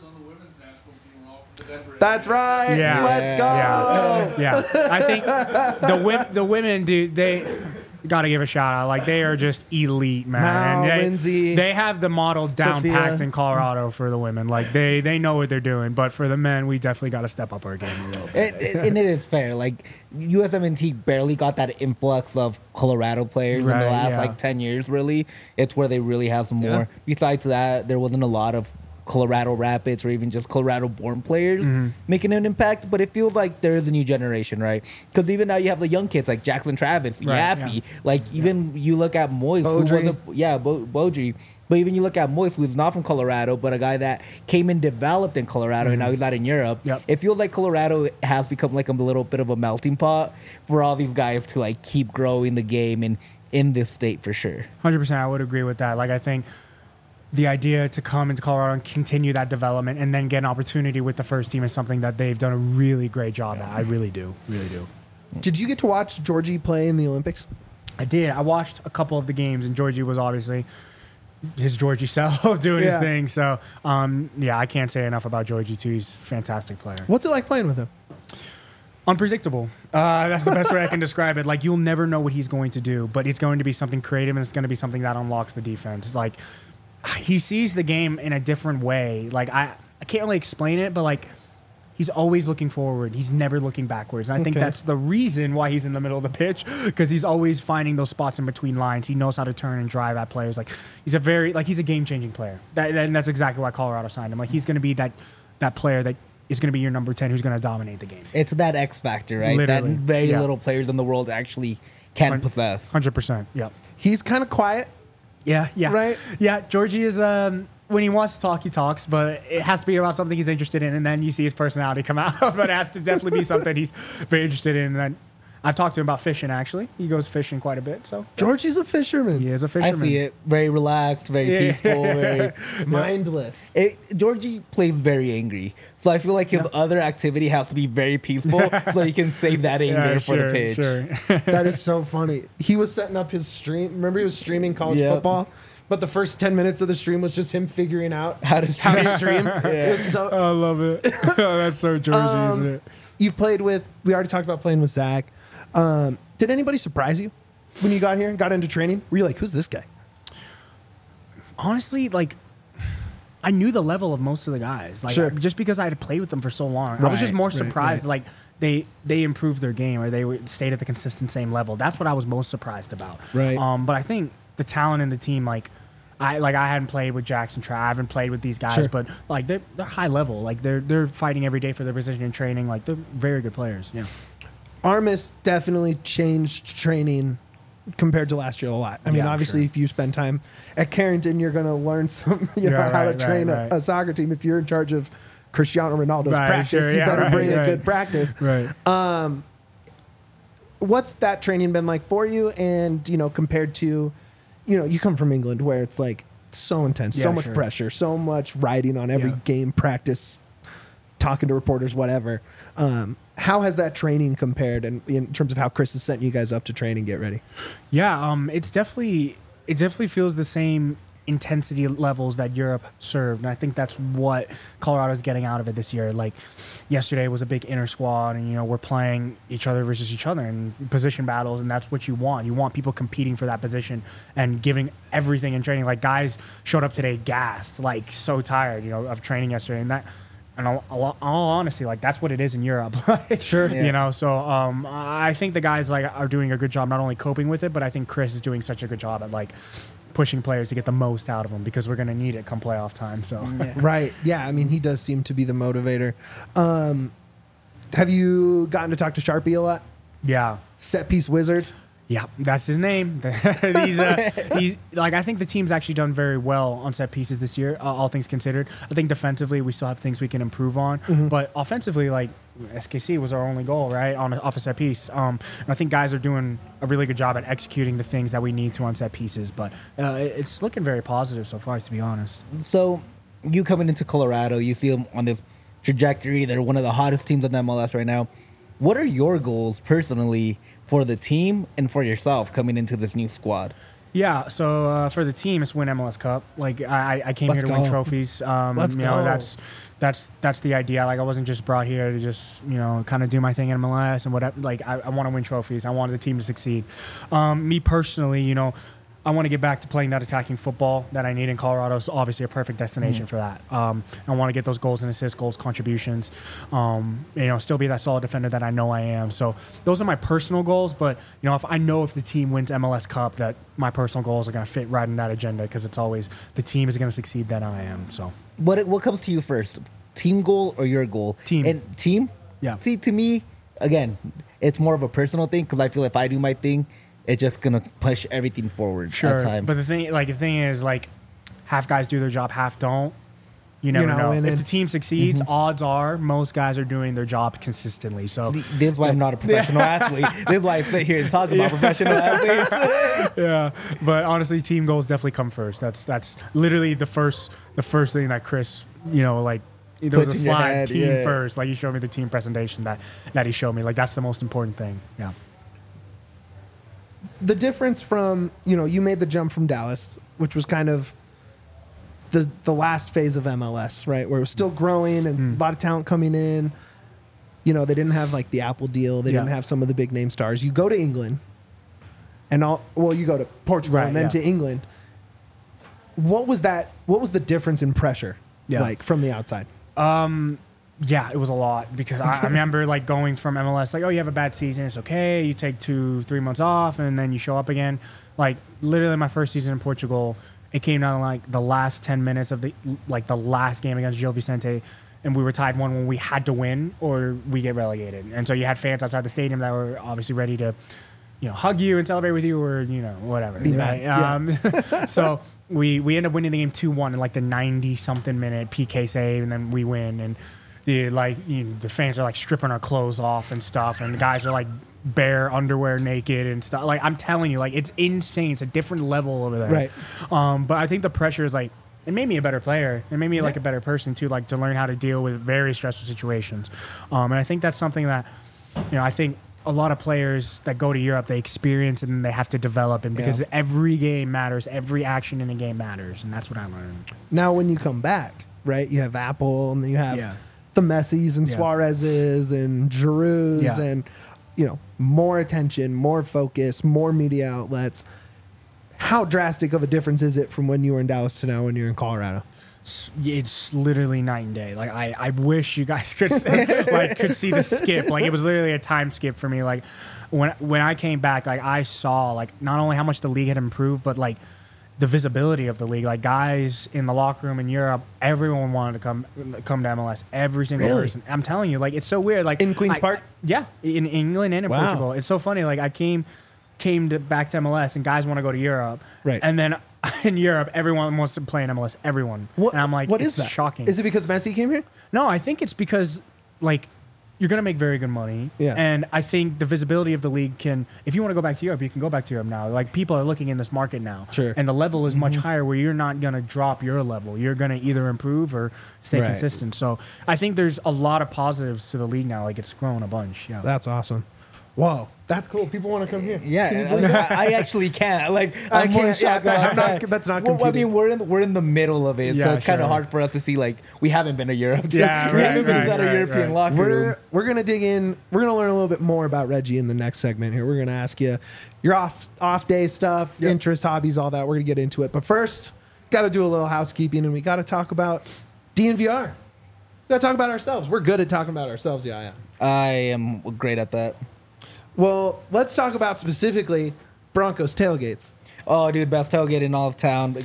That's right. Yeah. Let's go. Yeah. I think the women, dude, they got to give a shout out. Like, they are just elite, man. Mal, And Lindsay, they have the model down Sophia. packed in Colorado for the women. Like, they know what they're doing. But for the men, we definitely got to step up our game a little bit. And it is fair. Like, USMNT barely got that influx of Colorado players in the Right, last, yeah. 10 years, really. It's where they really have some more. Yeah. Besides that, there wasn't a lot of Colorado Rapids or even just Colorado-born players making an impact, but it feels like there is a new generation, right? Because even now you have the young kids like Jackson Travis, Right, Yappy. yeah. Like, even you look at Moise, Beaudry. Beaudry. But even you look at Moise, who's not from Colorado, but a guy that came and developed in Colorado, and now he's out in Europe. Yep. It feels like Colorado has become like a little bit of a melting pot for all these guys to like keep growing the game and in this state for sure. 100%, I would agree with that. Like, I think the idea to come into Colorado and continue that development and then get an opportunity with the first team is something that they've done a really great job at. I really do. Did you get to watch Georgie play in the Olympics? I did. I watched a couple of the games, and Georgie was obviously his Georgie self doing his thing. So, I can't say enough about Georgie, too. He's a fantastic player. What's it like playing with him? Unpredictable. That's the best way I can describe it. Like, you'll never know what he's going to do, but it's going to be something creative, and it's going to be something that unlocks the defense. It's like, he sees the game in a different way. Like, I can't really explain it, but like, he's always looking forward. He's never looking backwards. And I think that's the reason why he's in the middle of the pitch, because he's always finding those spots in between lines. He knows how to turn and drive at players. Like, he's a game-changing player. And that's exactly why Colorado signed him. Like, he's going to be that player that is going to be your number 10 who's going to dominate the game. It's that X factor, right? Literally. That very little players in the world actually can possess. 100%. Yep. He's kind of quiet. Yeah. Right? Yeah, Georgie is, when he wants to talk, he talks, but it has to be about something he's interested in, and then you see his personality come out. But it has to definitely be something he's very interested in. And then I've talked to him about fishing, actually. He goes fishing quite a bit, so. Georgie's a fisherman. He is a I fisherman. see it. Very relaxed, very peaceful, very Mindless. Georgie plays very angry. So I feel like his other activity has to be very peaceful so he can save that anger for the pitch. Sure. That is so funny. He was setting up his stream. Remember, he was streaming college football? But the first 10 minutes of the stream was just him figuring out How to stream. It was so, I love it. That's so Georgie, isn't it? You've played with, we already talked about playing with Zach. Did anybody surprise you when you got here and got into training? Were you like, who's this guy? Honestly, like, I knew the level of most of the guys. Like, just because I had played with them for so long. I was just more surprised, like, they improved their game, or they stayed at the consistent same level. That's what I was most surprised about. Right. But I think the talent in the team, I hadn't played with Jackson Trav, I haven't played with these guys, but like they're high level. Like they're fighting every day for their position in training. Like, they're very good players. Yeah. Armis definitely changed training compared to last year a lot. I mean, obviously, if you spend time at Carrington, you're going to learn some, how to train a soccer team. If you're in charge of Cristiano Ronaldo's practice, you better bring a good practice. Right. What's that training been like for you? And, compared to, you come from England where it's like so intense, so much pressure, so much riding on every game, practice, talking to reporters, whatever. How has that training compared, and in terms of how Chris is setting you guys up to train and get ready? Yeah, it definitely feels the same intensity levels that Europe served, and I think that's what Colorado's getting out of it this year. Like, yesterday was a big inter squad, and we're playing each other versus each other in position battles, and that's what you want. You want people competing for that position and giving everything in training. Like, guys showed up today gassed, like so tired, of training yesterday, and And all honesty, like that's what it is in Europe. Like, Sure. You know, so I think the guys like are doing a good job not only coping with it, but I think Chris is doing such a good job at like pushing players to get the most out of them because we're going to need it come playoff time. So Right. Yeah. I mean, he does seem to be the motivator. Have you gotten to talk to Sharpie a lot? yeah. Set piece wizard. Yeah, that's his name. he's like I think the team's actually done very well on set pieces this year, all things considered. I think defensively we still have things we can improve on, but offensively, like SKC was our only goal, right, off a set piece. And I think guys are doing a really good job at executing the things that we need to on set pieces. But it's looking very positive so far, to be honest. So you coming into Colorado, you see them on this trajectory. They're one of the hottest teams in the MLS right now. What are your goals personally for the team and for yourself coming into this new squad? Yeah, so for the team, it's win MLS Cup. Like I came Let's here to go. win trophies. Let's you know, go. that's the idea. Like I wasn't just brought here to just kind of do my thing in MLS and whatever. Like I want to win trophies. I wanted the team to succeed. Me personally, I want to get back to playing that attacking football that I need in Colorado. It's obviously a perfect destination for that. I want to get those goals and assists, goals, contributions. Still be that solid defender that I know I am. So those are my personal goals. But if the team wins MLS Cup, that my personal goals are going to fit right in that agenda because it's always the team is going to succeed than I am. So What comes to you first, team goal or your goal? Team. And team. Yeah. See, to me, again, it's more of a personal thing because I feel if I do my thing, it's just gonna push everything forward. Sure, at time. but the thing is, like, half guys do their job, half don't. You never know. If the team succeeds, odds are most guys are doing their job consistently. So this is why I'm not a professional athlete. This is why I sit here and talk about professional athletes. yeah, but honestly, team goals definitely come first. That's literally the first thing that Chris, there was a Puts in your slide head, team yeah. first. Like, you showed me the team presentation that he showed me. Like, that's the most important thing. Yeah. The difference from, you made the jump from Dallas, which was kind of the last phase of MLS, right? Where it was still growing and a lot of talent coming in. They didn't have like the Apple deal. They didn't have some of the big name stars. You go to England you go to Portugal and then to England. What was the difference in pressure like from the outside? Yeah, it was a lot because I remember like going from MLS, like, oh, you have a bad season, it's okay. You take 2-3 months off and then you show up again. Like literally my first season in Portugal, it came down to like the last 10 minutes of the last game against Gil Vicente, and we were tied 1 when we had to win or we get relegated. And so you had fans outside the stadium that were obviously ready to, hug you and celebrate with you or, whatever. Be mad. So we ended up winning the game 2-1 in like the 90-something minute PK save, and then we win. And the fans are like stripping our clothes off and stuff, and the guys are like bare underwear, naked and stuff. Like, I'm telling you, like, it's insane. It's a different level over there. Right. But I think the pressure is like, it made me a better player. It made me like a better person too, like to learn how to deal with very stressful situations. And I think that's something that, I think a lot of players that go to Europe, they experience and then they have to develop. And because every game matters, every action in a game matters. And that's what I learned. Now, when you come back, right, you have Apple and then you have the Messis and Suarez's and Giroud's and, more attention, more focus, more media outlets. How drastic of a difference is it from when you were in Dallas to now when you're in Colorado? It's literally night and day. Like I wish you guys could see the skip. Like, it was literally a time skip for me. Like when I came back, like I saw like not only how much the league had improved, but like the visibility of the league. Like, guys in the locker room in Europe, everyone wanted to come to MLS. Every single person. I'm telling you, like, it's so weird. Like in Queen's Park? Yeah, in England and in Portugal. It's so funny. Like, I came back to MLS and guys want to go to Europe. Right. And then in Europe, everyone wants to play in MLS. Everyone. And I'm like, what it's is that? shocking. Is it because Messi came here? No, I think it's because, like, you're going to make very good money. Yeah. And I think the visibility of the league can, if you want to go back to Europe, you can go back to Europe now. Like, people are looking in this market now. Sure. And the level is much higher where you're not going to drop your level. You're going to either improve or stay consistent. So I think there's a lot of positives to the league now. Like, it's grown a bunch. Yeah. That's awesome. Whoa, that's cool. People want to come here. Yeah, I actually can't. Like, I'm more can't. shocked Yeah, about that. that's not Well, I competing. mean, we're in the middle of it, so Yeah, it's kind of sure. hard for us to see. Like, we haven't been to Europe. Yeah, we right, haven't been right, inside a right, European right. locker room. We're gonna dig in. We're gonna learn a little bit more about Reggie in the next segment here. We're gonna ask you your off day stuff, interests, hobbies, all that. We're gonna get into it, but first, got to do a little housekeeping, and we got to talk about DNVR. We gotta talk about ourselves. We're good at talking about ourselves, yeah. I am great at that. Well, let's talk about specifically Broncos tailgates. Oh, dude, best tailgate in all of town.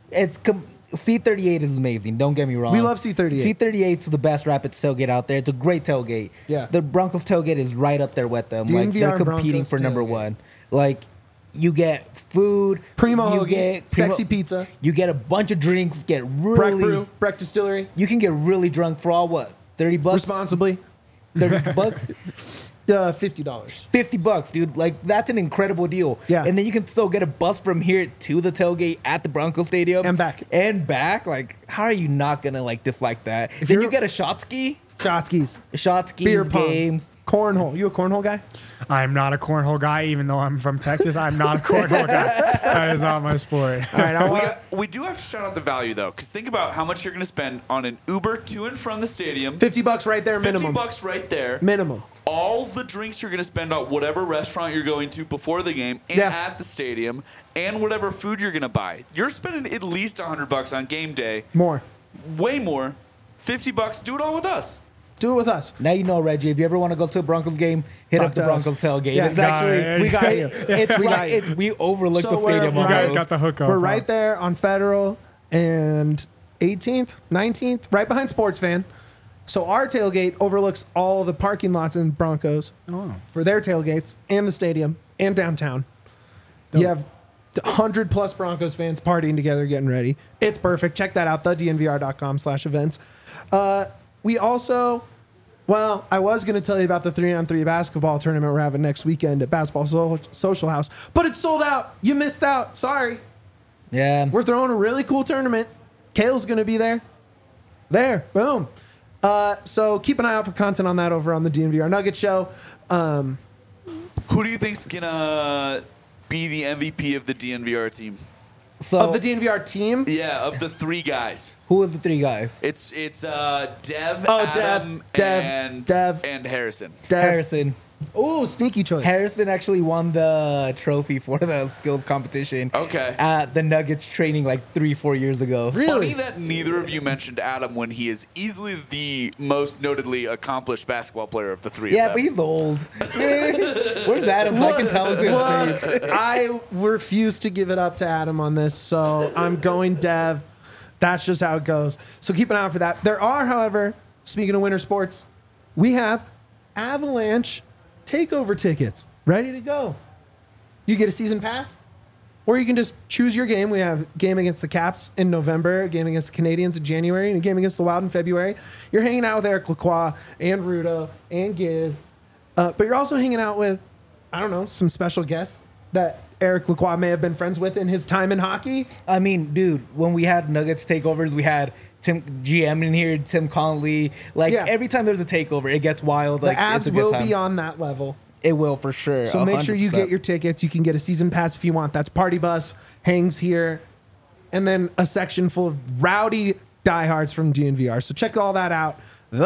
C38 is amazing. Don't get me wrong. We love C38. C38 is the best Rapids tailgate out there. It's a great tailgate. Yeah. The Broncos tailgate is right up there with them. Like, they're DNVR competing Broncos for number tailgate. one. Like, you get food, Primo you hoagies, get sexy pizza, you get a bunch of drinks, get Breck really, Brew, Breck Distillery, you can get really drunk for all what, $30? responsibly, $30, $50. $50, dude. Like, that's an incredible deal. Yeah. And then you can still get a bus from here to the tailgate at the Broncos Stadium And back. Like, how are you not gonna like dislike that? If Then you're- you get a shot ski, Shotskis, beer pong, games. cornhole. You a cornhole guy? I'm not a cornhole guy, even though I'm from Texas. I'm not a cornhole guy. That is not my sport. All right, We do have to shout out the value though, because think about how much you're going to spend on an Uber to and from the stadium. $50 right there minimum. $50 right there. Minimum. All the drinks you're going to spend on whatever restaurant you're going to before the game and Yeah. at the stadium, and whatever food you're going to buy. You're spending at least $100 on game day. More. Way more. $50. Do it all with us. Do it with us. Now you know, Reggie. If you ever want to go to a Broncos game, hit Talk up the to us. Broncos tailgate. Yeah, It's got actually it. We got you. It's We got right. you. We overlook So the stadium. we're- You guys almost. got the hook up. We're huh? right there on Federal and 18th, 19th, right behind Sports Fan. So our tailgate overlooks all the parking lots in Broncos for their tailgates and the stadium and downtown. You have 100 plus Broncos fans partying together, getting ready. It's perfect. Check that out, thednvr.com/events. We also, well, I was going to tell you about the 3-on-3 basketball tournament we're having next weekend at Basketball Social House, but it's sold out. You missed out. Sorry. Yeah. We're throwing a really cool tournament. Kale's going to be there. There. Boom. So keep an eye out for content on that over on the DNVR Nugget Show. Who do you think's going to be the MVP of the DNVR team? So Of the DNVR team. Yeah, of the three guys. who was the three guys? It's Dev, Oh, Adam, Dev. and Harrison. Dev. Harrison. Ooh, sneaky choice. Harrison actually won the trophy for the skills competition. Okay. At the Nuggets training like 3-4 years ago. Really? Funny that neither of you mentioned Adam when he is easily the most notedly accomplished basketball player of the three Yeah, of but them. he's old. Where's Adam? I can tell to his face. I refuse to give it up to Adam on this, so I'm going Dev. That's just how it goes. So keep an eye out for that. There are, however, speaking of winter sports, we have Avalanche takeover tickets ready to go. You get a season pass, or you can just choose your game. We have a game against the Caps in November, a game against the Canadiens in January, and a game against the Wild in February. You're hanging out with Eric Lacroix and Rudo and Giz, but you're also hanging out with, I don't know, some special guests that Eric Lacroix may have been friends with in his time in hockey. I mean, dude, when we had Nuggets takeovers, we had Tim GM in here, Tim Connolly. Like, Yeah. every time there's a takeover, it gets wild. The Like, Avs it's a good will time. be on that level. It will for sure. So make sure you 100%. get your tickets. You can get a season pass if you want. That's Party Bus, hangs here, and then a section full of rowdy diehards from DNVR. So check all that out.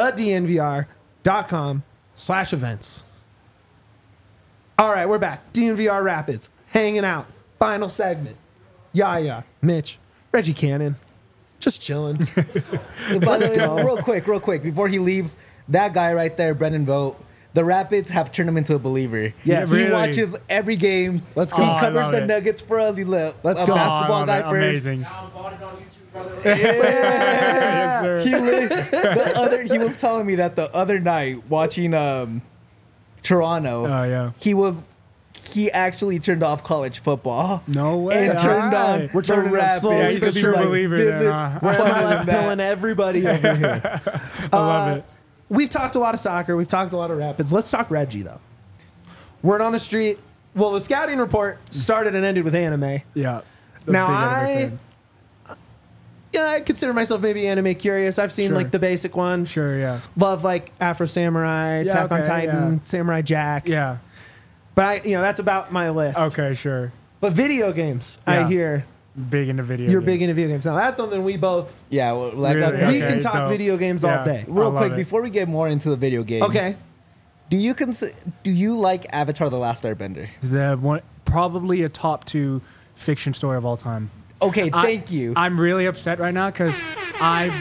thednvr.com/events. All right, we're back. DNVR Rapids, hanging out. Final segment. Yaya, Mitch, Reggie Cannon, just chilling. By the way, real quick, before he leaves, that guy right there, Brendan Vogt, the Rapids have turned him into a believer. Yes. He Really? watches every game. Let's go. He Oh, I covers love the it. Nuggets for us. He's a Let's a go. basketball I guy love it. first. Amazing. Now I'm bought it on YouTube, brother. Yes, sir. He was telling me that the other night watching Toronto. Oh, yeah. He actually turned off college football. No way. And turned All on right. We're the turning it up Rapids. slowly Yeah, he's a but true surely. believer. This Then, is- We're What MLS is that? pilling everybody over here. I love it. We've talked a lot of soccer. We've talked a lot of Rapids. Let's talk Reggie, though. Word on the street. Well, the scouting report started and ended with anime. Yeah. Now, Big anime fan. I consider myself maybe anime curious. I've seen Sure. like the basic ones. Sure, yeah. Love like Afro Samurai, Yeah, Attack on okay, Titan, yeah. Samurai Jack. Yeah. But that's about my list. Okay, sure. But video games, I Yeah. hear Big into video. you're games. big into video games. Now that's something we both Yeah, well, like Really? that. we Okay, can talk dope. video games all Yeah. day. Real I love quick, it. before we get more into the video game, Okay. do you like Avatar: The Last Airbender? The one, probably a top 2 fiction story of all time. Okay, thank you. I'm really upset right now because I've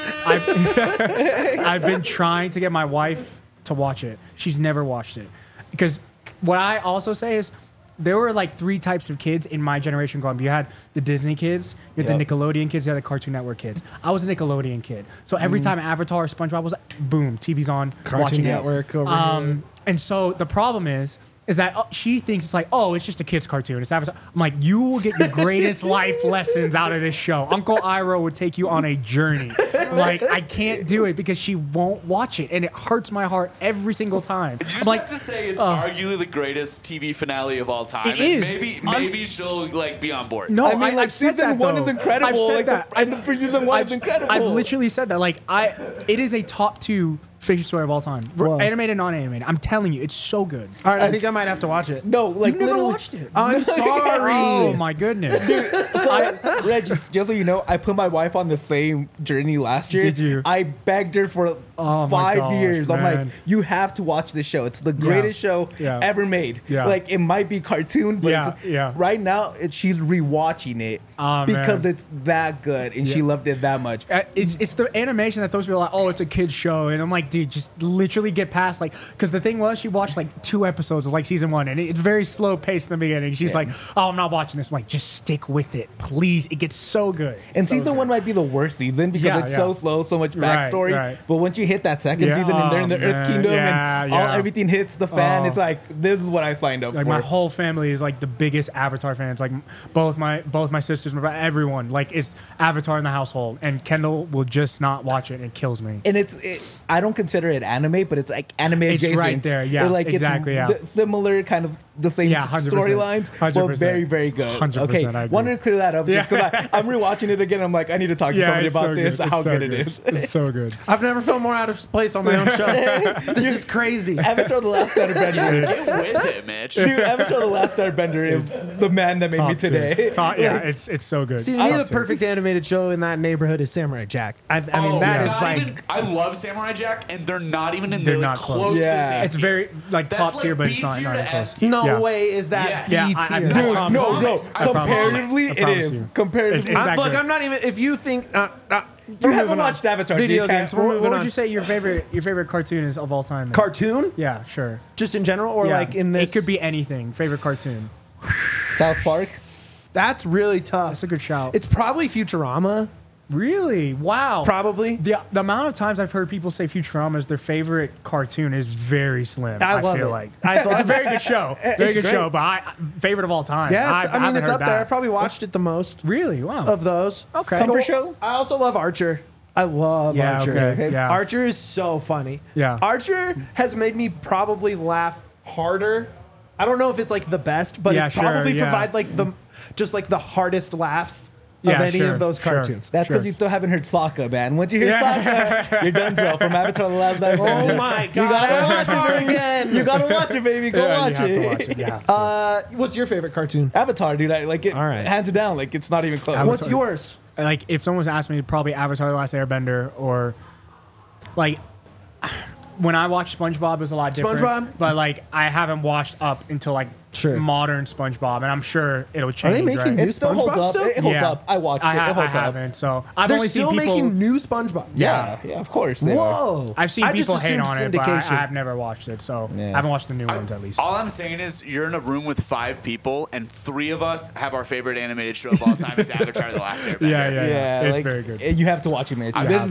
been trying to get my wife to watch it. She's never watched it. Because what I also say is there were like 3 types of kids in my generation growing up. You had the Disney kids, you had the Nickelodeon kids, you had the Cartoon Network kids. I was a Nickelodeon kid. So every time Avatar or SpongeBob was boom, TV's on, Cartoon watching Network it. over here. And so the problem is that she thinks it's like, oh, it's just a kid's cartoon. It's Avatar. I'm like, you will get your greatest life lessons out of this show. Uncle Iroh would take you on a journey. Like, I can't do it because she won't watch it. And it hurts my heart every single time. You just I'm like, have to say it's arguably the greatest TV finale of all time. It and is. Maybe she'll like be on board. no, I mean, like, I've said season that, 1 though. is incredible. I've said Like, that. the end for season 1 is incredible. I've literally said that. Like, it is a top 2 fiction story of all time. Whoa. Animated, non-animated. I'm telling you, it's so good. All right, I think I might have to watch it. No, like You've never literally. watched it. I'm sorry. Oh my goodness. Reggie, just so you know, I put my wife on the same journey last year. Did you? I begged her for Oh my 5 gosh, years. I'm like, man. you have to watch this show. It's the greatest show Yeah. ever made. Yeah. Like, it might be cartoon, but Yeah, yeah. right now she's rewatching it Oh, because man. it's that good and she loved it that much. It's the animation that those people are like, oh, it's a kid's show, and I'm like, dude, just literally get past because the thing was, she watched like 2 episodes of like season 1, and it's very slow paced in the beginning. She's like, oh, I'm not watching this. I'm like, just stick with it, please. It gets so good. And So season good. 1 might be the worst season because Yeah, it's yeah. so slow, so much Right, backstory. right. But once you hit that second Yeah, season and they're in the oh, Earth man. Kingdom Yeah, and yeah. everything hits the fan, Oh. it's like, this is what I signed up Like for. my whole family is like the biggest Avatar fans. Like both my sisters, everyone. Like it's Avatar in the household, and Kendall will just not watch it, and it kills me. And I don't consider it anime, but it's like anime It's adjacent. right there, yeah, It's like exactly, yeah. Similar, kind of the same Yeah, 100%, storylines, but 100%. very, very good. 100%, Okay, I agree. wanted to clear that up just Yeah. because I'm rewatching it again. I'm like, I need to talk to somebody it's about so this, good. how It's so good it is. It's so good. I've never felt more out of place on my own show. This is crazy. Avatar: The Last Airbender. Get with it, Mitch. Dude, Avatar: The Last Airbender is the man that made me Top two. today. Yeah, it's so good. See, to Top me, the two. perfect animated show in that neighborhood is Samurai Jack. I mean, Oh, that is not like. even- I love Samurai Jack, and they're not even in They're the not close, close. to the Yeah. same It's tier. very like That's top like tier, but B it's not tier not to even close. S tier. No Yeah. way is that Yes. B Yeah, tier. I Dude, promise. no, promise. I promise. comparatively, I it promise is. you. Comparatively, It's that Look, good. I'm not even. If you think. you haven't watched Avatar. Video so you games. can't- We're What moving would on. you say your favorite cartoon is of all time? then? Cartoon? Yeah, sure. Just in general, or Yeah. like in this? It could be anything. Favorite cartoon. South Park. That's really tough. That's a good shout. It's probably Futurama. Really? Wow. Probably. The amount of times I've heard people say Futurama is their favorite cartoon is very slim. I love feel it. like I it's a love very good show. Very It's good great. show, but favorite of all time. Yeah, I mean, haven't it's heard up there. that. I've probably watched it the most Really? Wow. of those. Okay. Comfort show. I also love Archer. I love Yeah, Archer. okay, yeah. Archer is so funny. Yeah. Archer has made me probably laugh harder. I don't know if it's like the best, but Yeah, it sure, probably yeah. provide like the hardest laughs Yeah, of any sure, of those sure. cartoons. That's because Sure. you still haven't heard Sokka, man. Once you hear Yeah. Sokka, you're done so. From Avatar: The Last Airbender. Oh my god! You gotta watch Avatar it, baby. again. You gotta watch it, baby. Go Yeah, watch you have it. to watch it. You have to. What's your favorite cartoon? Avatar, dude. I like it. All right. Hands down. Like it's not even close. What's yours? Like if someone's asked me, probably Avatar: The Last Airbender, or like when I watched SpongeBob, it was a lot different. SpongeBob? But like I haven't watched up until like Sure. modern SpongeBob, and I'm sure it'll Are change. they making right? new It still holds SpongeBob up. still? It holds up. I watched it. It I holds up. haven't. So I've They're only still seen people. making new SpongeBob. Yeah, of course. They are. Whoa! I've seen I just people hate assumed on it, but syndication. I've never watched it, so Yeah. I haven't watched the new ones at least. All I'm saying is you're in a room with 5 people, and 3 of us have our favorite animated show of all time is Avatar: The Last Airbender. Yeah. It's like, very good. You have to watch it, man. I This-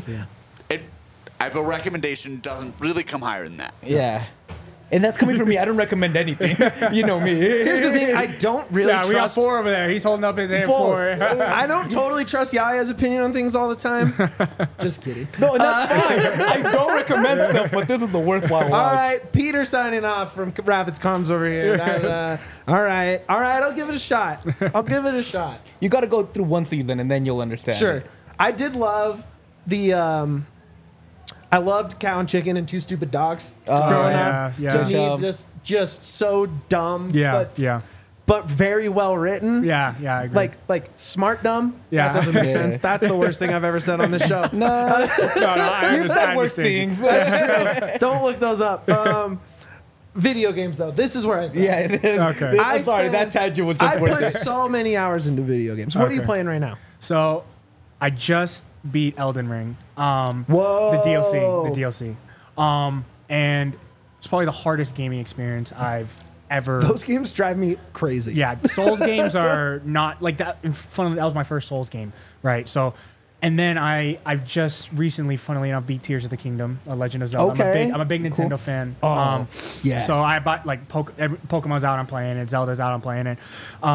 I have a recommendation, doesn't really come higher than that. yeah. And that's coming from me. I don't recommend anything. You know me. Here's the thing: I don't really Yeah, we got trust. 4 over there. He's holding up his hand Four. for. I don't totally trust Yaya's opinion on things all the time. Just kidding. No, and that's fine. I don't recommend stuff, but this is a worthwhile watch. All right, Peter signing off from Rabbits Comms over here. All right, I'll give it a shot. You got to go through one season and then you'll understand. Sure. I did love the. I loved Cow and Chicken and Two Stupid Dogs growing yeah, up. yeah. To Touchdown. me, just so dumb. Yeah, but, yeah, but very well written. yeah. I agree. Like smart dumb. Yeah. That doesn't make Yeah. sense. That's the worst thing I've ever said on this show. no, I You've said worse understand. things. Don't look those up. Video games though. This is where I. Yeah, it is. Okay. I'm sorry, spent- that tangent was just I worth put it. so many hours into video games. What are you Okay. playing right now? So, I just beat Elden Ring. Whoa. The DLC. And it's probably the hardest gaming experience I've ever. Those games drive me crazy. Yeah, Souls games are not like that. Funnily, that was my first Souls game, right? So, and then I just recently, funnily enough, beat Tears of the Kingdom, A Legend of Zelda. Okay. I'm a big Nintendo fan. Oh, yes. So I bought like Pokemon's out, I'm playing it. Zelda's out, I'm playing it.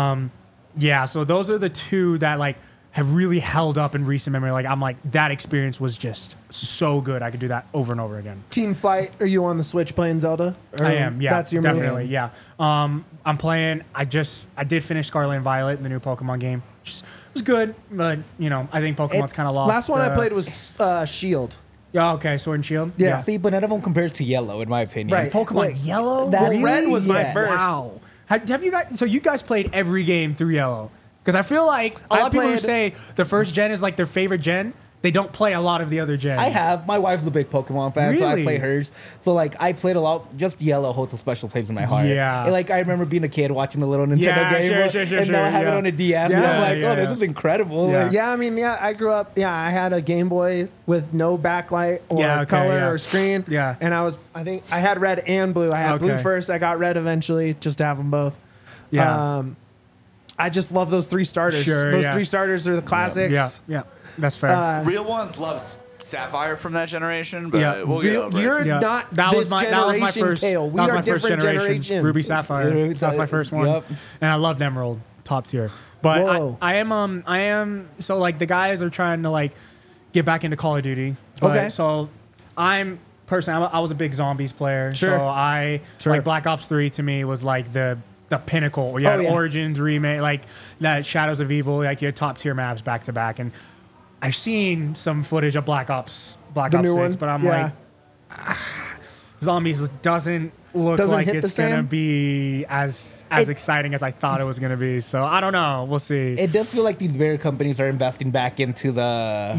Yeah, so those are the two that like have really held up in recent memory. Like I'm like that experience was just so good. I could do that over and over again. Team Flight, are you on the Switch playing Zelda? Or I am, yeah, That's your definitely, move? yeah. I'm playing. I did finish Scarlet and Violet, the new Pokemon game. It was good, but you know, I think Pokemon's kind of lost. Last one I played was Shield. Yeah, okay, Sword and Shield. Yeah. See, but none of them compares to Yellow, in my opinion. Right. Pokemon Wait, Yellow. that- Really? Red was my Yeah. first. Wow. Have you guys? So you guys played every game through Yellow? Because I feel like a lot of people who say the first gen is like their favorite gen, they don't play a lot of the other gens. I have. My wife's a big Pokemon fan, so I Really? play hers. So like, I played a lot. Just Yellow holds a special place in my heart. Yeah. And, like I remember being a kid watching the little Nintendo Yeah, game, sure, and now I have it yeah. on a DS, and Yeah, I'm like, yeah, oh, this yeah. is incredible. Yeah. Like, Yeah, I mean, yeah, I grew up. Yeah, I had a Game Boy with no backlight or Yeah, okay, color yeah. or screen. Yeah. and I think I had red and blue. I had blue Okay. first. I got red eventually, just to have them both. Yeah. I just love those three starters. Sure, Those yeah. three starters are the classics. Yeah, that's fair. Real ones love Sapphire from that generation, but Yeah. we'll get over it. You're Yeah. not That this was my generation, first. Kale. We that was are my first different generation. generations. Ruby Sapphire. That's my first one. Yep. And I loved Emerald, top tier. But Whoa. I am. So like the guys are trying to like get back into Call of Duty. But, Okay. So I was a big zombies player. Sure. So like Black Ops 3 to me was like the pinnacle. You had Oh, yeah. Origins remake, like that Shadows of Evil, like you had top tier maps back to back. And I've seen some footage of Black Ops The 6, new one? but I'm Yeah. like, Zombies doesn't look Doesn't like hit the it's gonna same? be as exciting as I thought it was gonna be. So I don't know. We'll see. It does feel like these bigger companies are investing back into the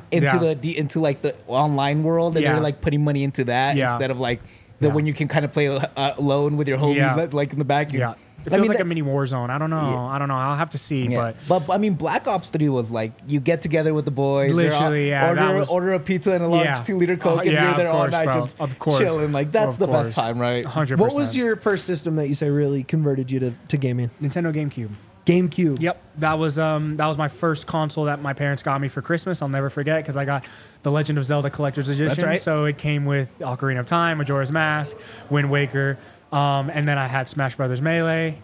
into like the online world, and Yeah. they're like putting money into that Yeah. instead of like Yeah. when you can kind of play alone with your homies, Yeah. like in the back. Yeah. It I feels mean, like that- a mini war zone. I don't know. Yeah. I don't know. I'll have to see. Yeah. But But I mean, Black Ops 3 was like you get together with the boys, they're Literally, yeah, that order was- order a pizza and a large Yeah. 2-liter Coke, and Yeah, you're of there all course, night bro. just Of course. chilling. Like that's Of the course. best time, right? 100%. What was your first system that you say really converted you to gaming? Nintendo GameCube? GameCube. Yep, that was my first console that my parents got me for Christmas. I'll never forget because I got the Legend of Zelda Collector's Edition. right. So it came with Ocarina of Time, Majora's Mask, Wind Waker, and then I had Smash Brothers Melee,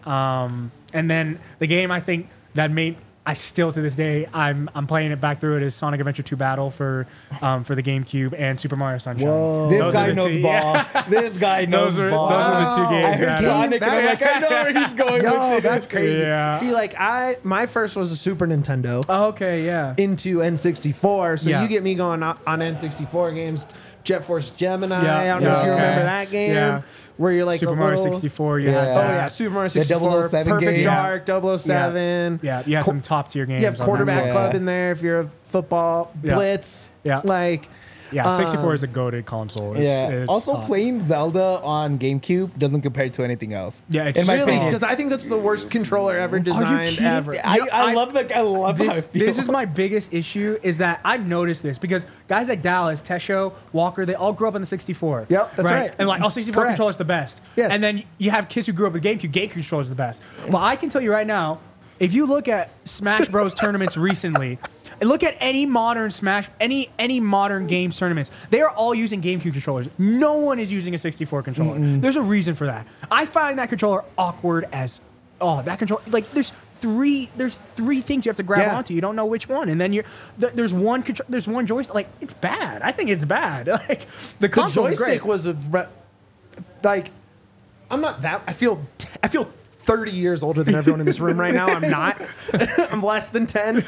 and then the game I think that made. I still to this day I'm playing it back through it is Sonic Adventure 2 Battle for the GameCube and Super Mario Sunshine. Whoa. This Those guy are the knows two- ball. yeah. This guy knows Those are ball. the two games. I heard that- Sonic, and I'm like, I know where he's going Yo, with that's this. crazy. Yeah. See, like my first was a Super Nintendo Oh, okay, yeah. into N64. So Yeah. you get me going on N64 games. Jet Force Gemini. Yeah, I don't know yeah, if you okay. remember that game. Yeah. Where you're like Super a Mario little, 64. You Yeah. had Oh that. yeah, Super Mario The 64, 007 Perfect game. Dark, 007. Yeah, you had some top tier games. You have on that. quarterback Yeah. club in there if you're a football Yeah. blitz. Yeah. Like Yeah, 64 is a goated console. Yeah. It's Also, top. playing Zelda on GameCube doesn't compare to anything else. Yeah, it's in my really- opinion. because I think that's the worst controller ever designed kidding? ever. I love how I This feel. is my biggest issue is that I've noticed this because guys like Dallas, Tesho, Walker, they all grew up on the 64. Yep, that's right. And like, 64 Correct. controller is the best. Yes. And then you have kids who grew up with GameCube controller is the best. But I can tell you right now, if you look at Smash Bros tournaments recently, and look at any modern Smash, any modern games tournaments, they are all using GameCube controllers. No one is using a 64 controller. There's a reason for that. I find that controller awkward as that controller. Like there's three things you have to grab Yeah. onto. You don't know which one, and then there's one joystick. Like it's bad. I think it's bad. Like the The console's joystick great. was like I'm not that. I feel 30 years older than everyone in this room right now. I'm not. I'm less than 10.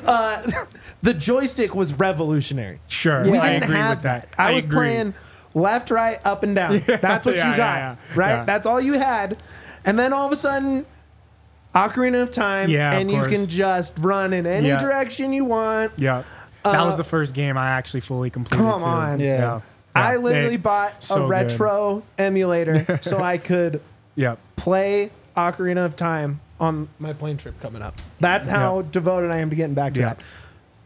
The joystick was revolutionary. Sure, We I didn't agree have with that. I was agree. playing left, right, up, and down. That's what Yeah, you got, yeah, right? yeah. That's all you had. And then all of a sudden, Ocarina of Time, Yeah, of and you course. can just run in any Yeah. direction you want. Yeah, that was the first game I actually fully completed. Come too. on. Yeah. I Yeah, literally it- bought so a good. retro emulator so I could Yep. play Ocarina of Time on my plane trip coming up. That's how devoted I am to getting back to Yeah. that.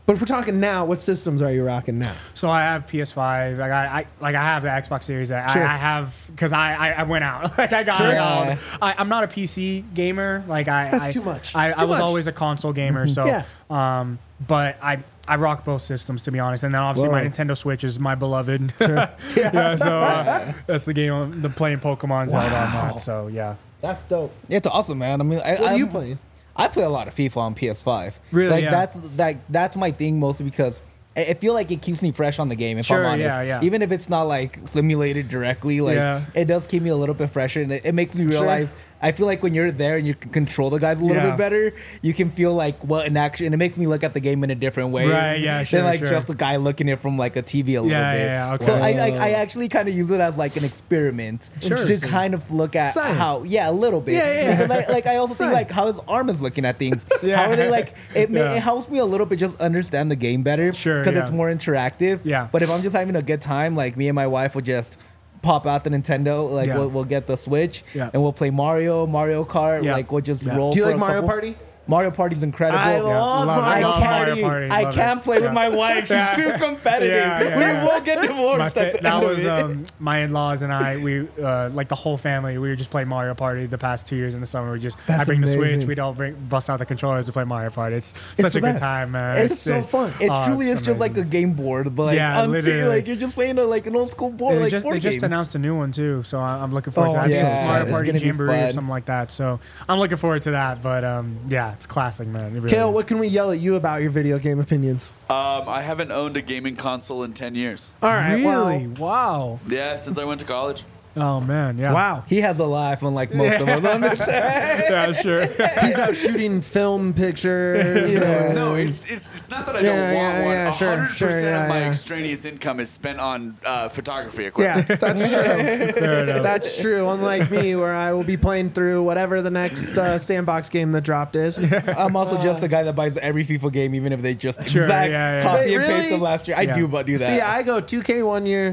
But if we're talking now, what systems are you rocking now? So I have PS5. I have the Xbox Series. Sure. I have because I went out. Like I got Sure. it all. I'm not a PC gamer. Like That's too much. I It's too was much. always a console gamer. So Yeah. but I rock both systems, to be honest. And then obviously my Whoa. Nintendo Switch is my beloved. Yeah. So that's the game. The playing Pokemon Zelda on that. So yeah. That's dope. It's awesome, man. I mean, What are you playing? I play a lot of FIFA on PS5. Really? Like Yeah. that's my thing mostly because I feel like it keeps me fresh on the game. If Sure, I'm honest, yeah. even if it's not like simulated directly, like Yeah. it does keep me a little bit fresher, and it makes me realize. I feel like when you're there and you can control the guys a little Yeah. bit better, you can feel like what in action, and it makes me look at the game in a different way, Right, yeah, sure, than like sure. just a guy looking at it from like a TV a little Yeah, bit. yeah, okay. So I actually kind of use it as like an experiment Sure. to kind of look at Science. how, a little bit. Yeah. Because I also think like Science. how his arm is looking at things. Yeah. How are they like? It Yeah. helps me a little bit just understand the game better. Sure, Because yeah. it's more interactive. Yeah. But if I'm just having a good time, like me and my wife will just pop out the Nintendo, like Yeah. we'll get the Switch, Yeah. and we'll play Mario Kart. Yeah. Like we'll just Yeah. roll. Do you for like a Mario couple- Party? Mario Party's incredible. I love love Mario Mario Party. Party. I Love can't it. play with my wife. She's Yeah. too competitive. Yeah. We will get divorced at the That end was of it. my in-laws and I. We like the whole family. We were just playing Mario Party the past 2 years in the summer. I That's bring the amazing. Switch. We'd all bust out the controllers to play Mario Party. It's such the a good best. time, man. It's so fun. It oh, truly it's is just like a amazing. game board, but like, Yeah, literally. like you're just playing like an old school board, like board They just game. announced a new one too, so I'm looking forward Oh, to that. I think yeah. it's Mario It's Party gonna be Jamboree or fun. something like that. So I'm looking forward to that. But yeah, it's classic, man. It really Kale, is. what can we yell at you about your video game opinions? I haven't owned a gaming console in 10 years. All right. Really? Well, Wow. Yeah, since I went to college. Oh man. Yeah. wow. He has a life, unlike most of us. Yeah. Sure. He's out shooting film pictures. No, it's not that I don't want one. yeah, sure, 100% sure, yeah, of my yeah. extraneous income is spent on photography Yeah, equipment. that's true. Fair enough. That's true. Unlike me, where I will be playing through whatever the next sandbox game that dropped is. I'm also just the guy that buys every FIFA game, even if they just Sure, exact yeah. copy Wait, and paste really? of last year. I Yeah. do that. See, I go 2K one year,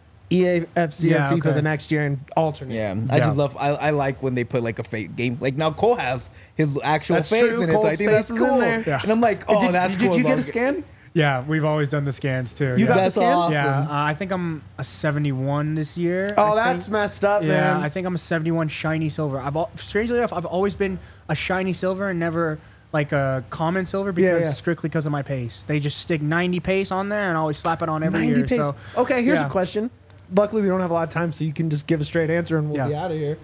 EA FC Yeah, or FIFA okay. the next year, and alternate. Yeah, I Yeah. just love. I like when they put like a fake game. Like now, Cole has his actual That's face true. in it. So I Cole's think that's face is in cool. there. Yeah. And I'm like, oh, that's did cool. you get a dog. scan? Yeah, we've always done the scans too. You yeah. got the That's scan? awesome. Yeah, I think I'm a 71 this year. Oh, I that's think. messed up, Yeah, man. I think I'm a 71 shiny silver. Strangely enough, I've always been a shiny silver and never like a common silver because strictly because of my pace. They just stick 90 pace on there and I always slap it on every 90 year. pace. So Okay, here's yeah. a question. Luckily, we don't have a lot of time, so you can just give a straight answer and we'll be Yeah. out of here.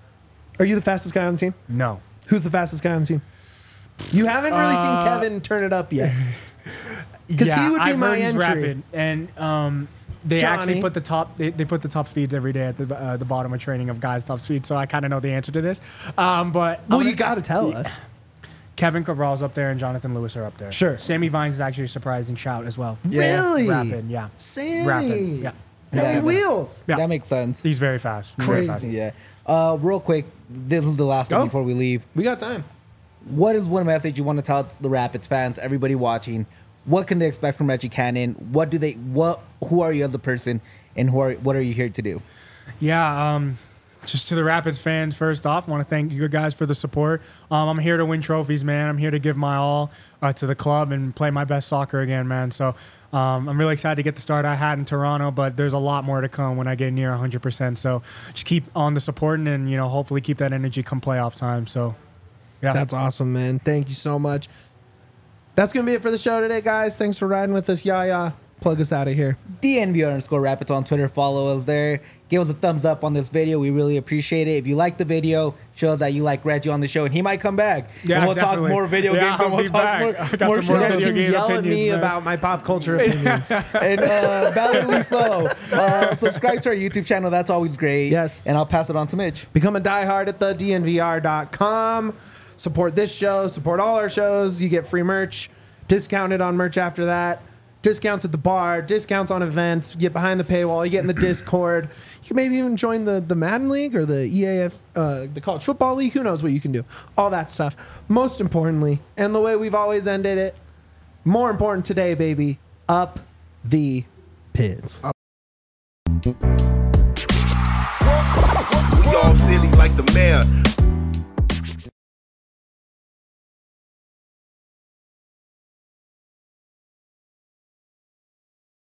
Are you the fastest guy on the team? No. Who's the fastest guy on the team? You haven't really seen Kevin turn it up yet. Because he would be I've my heard he's entry. rapid, and they Johnny. actually put the top. They put the top speeds every day at the bottom of training of guys' top speeds. So I kind of know the answer to this. But Well, I'm you gonna- got to tell us. Kevin Cabral's up there and Jonathan Lewis are up there. Sure. Sammy Vines is actually a surprising shout as well. Yeah. Really? Rapid, yeah. Sammy. Rapid, yeah. Sammy Yeah. Wheels. Yeah. That makes sense. He's very fast. He's very fast. Yeah. Real quick, this is the last Go. one before we leave. We got time. What is one message you want to tell the Rapids fans, everybody watching? What can they expect from Reggie Cannon? Who are you as a person, and what are you here to do? Yeah, just to the Rapids fans, first off, I want to thank you guys for the support. I'm here to win trophies, man. I'm here to give my all to the club and play my best soccer again, man. So I'm really excited to get the start I had in Toronto, but there's a lot more to come when I get near 100%. So just keep on the supporting and, hopefully keep that energy come playoff time. So, yeah. That's awesome, man. Thank you so much. That's going to be it for the show today, guys. Thanks for riding with us. Yaya, plug us out of here. DNVR_Rapids on Twitter. Follow us there. Give us a thumbs up on this video. We really appreciate it. If you like the video, show us that you like Reggie on the show, and he might come back. Yeah, and we'll definitely. talk more video Yeah, games, and I'll we'll be talk back. more, I got more some more shows. video You game yell at opinions, me man. about my pop culture opinions. And validly so. Subscribe to our YouTube channel. That's always great. Yes. And I'll pass it on to Mitch. Become a diehard at the DNVR.com. Support this show. Support all our shows. You get free merch. Discounted on merch after that. Discounts at the bar. Discounts on events. You get behind the paywall. You get in the Discord. You can maybe even join the Madden League or the EAF, the College Football League. Who knows what you can do. All that stuff. Most importantly, and the way we've always ended it, more important today, baby, up the Pids. We all silly like the mayor.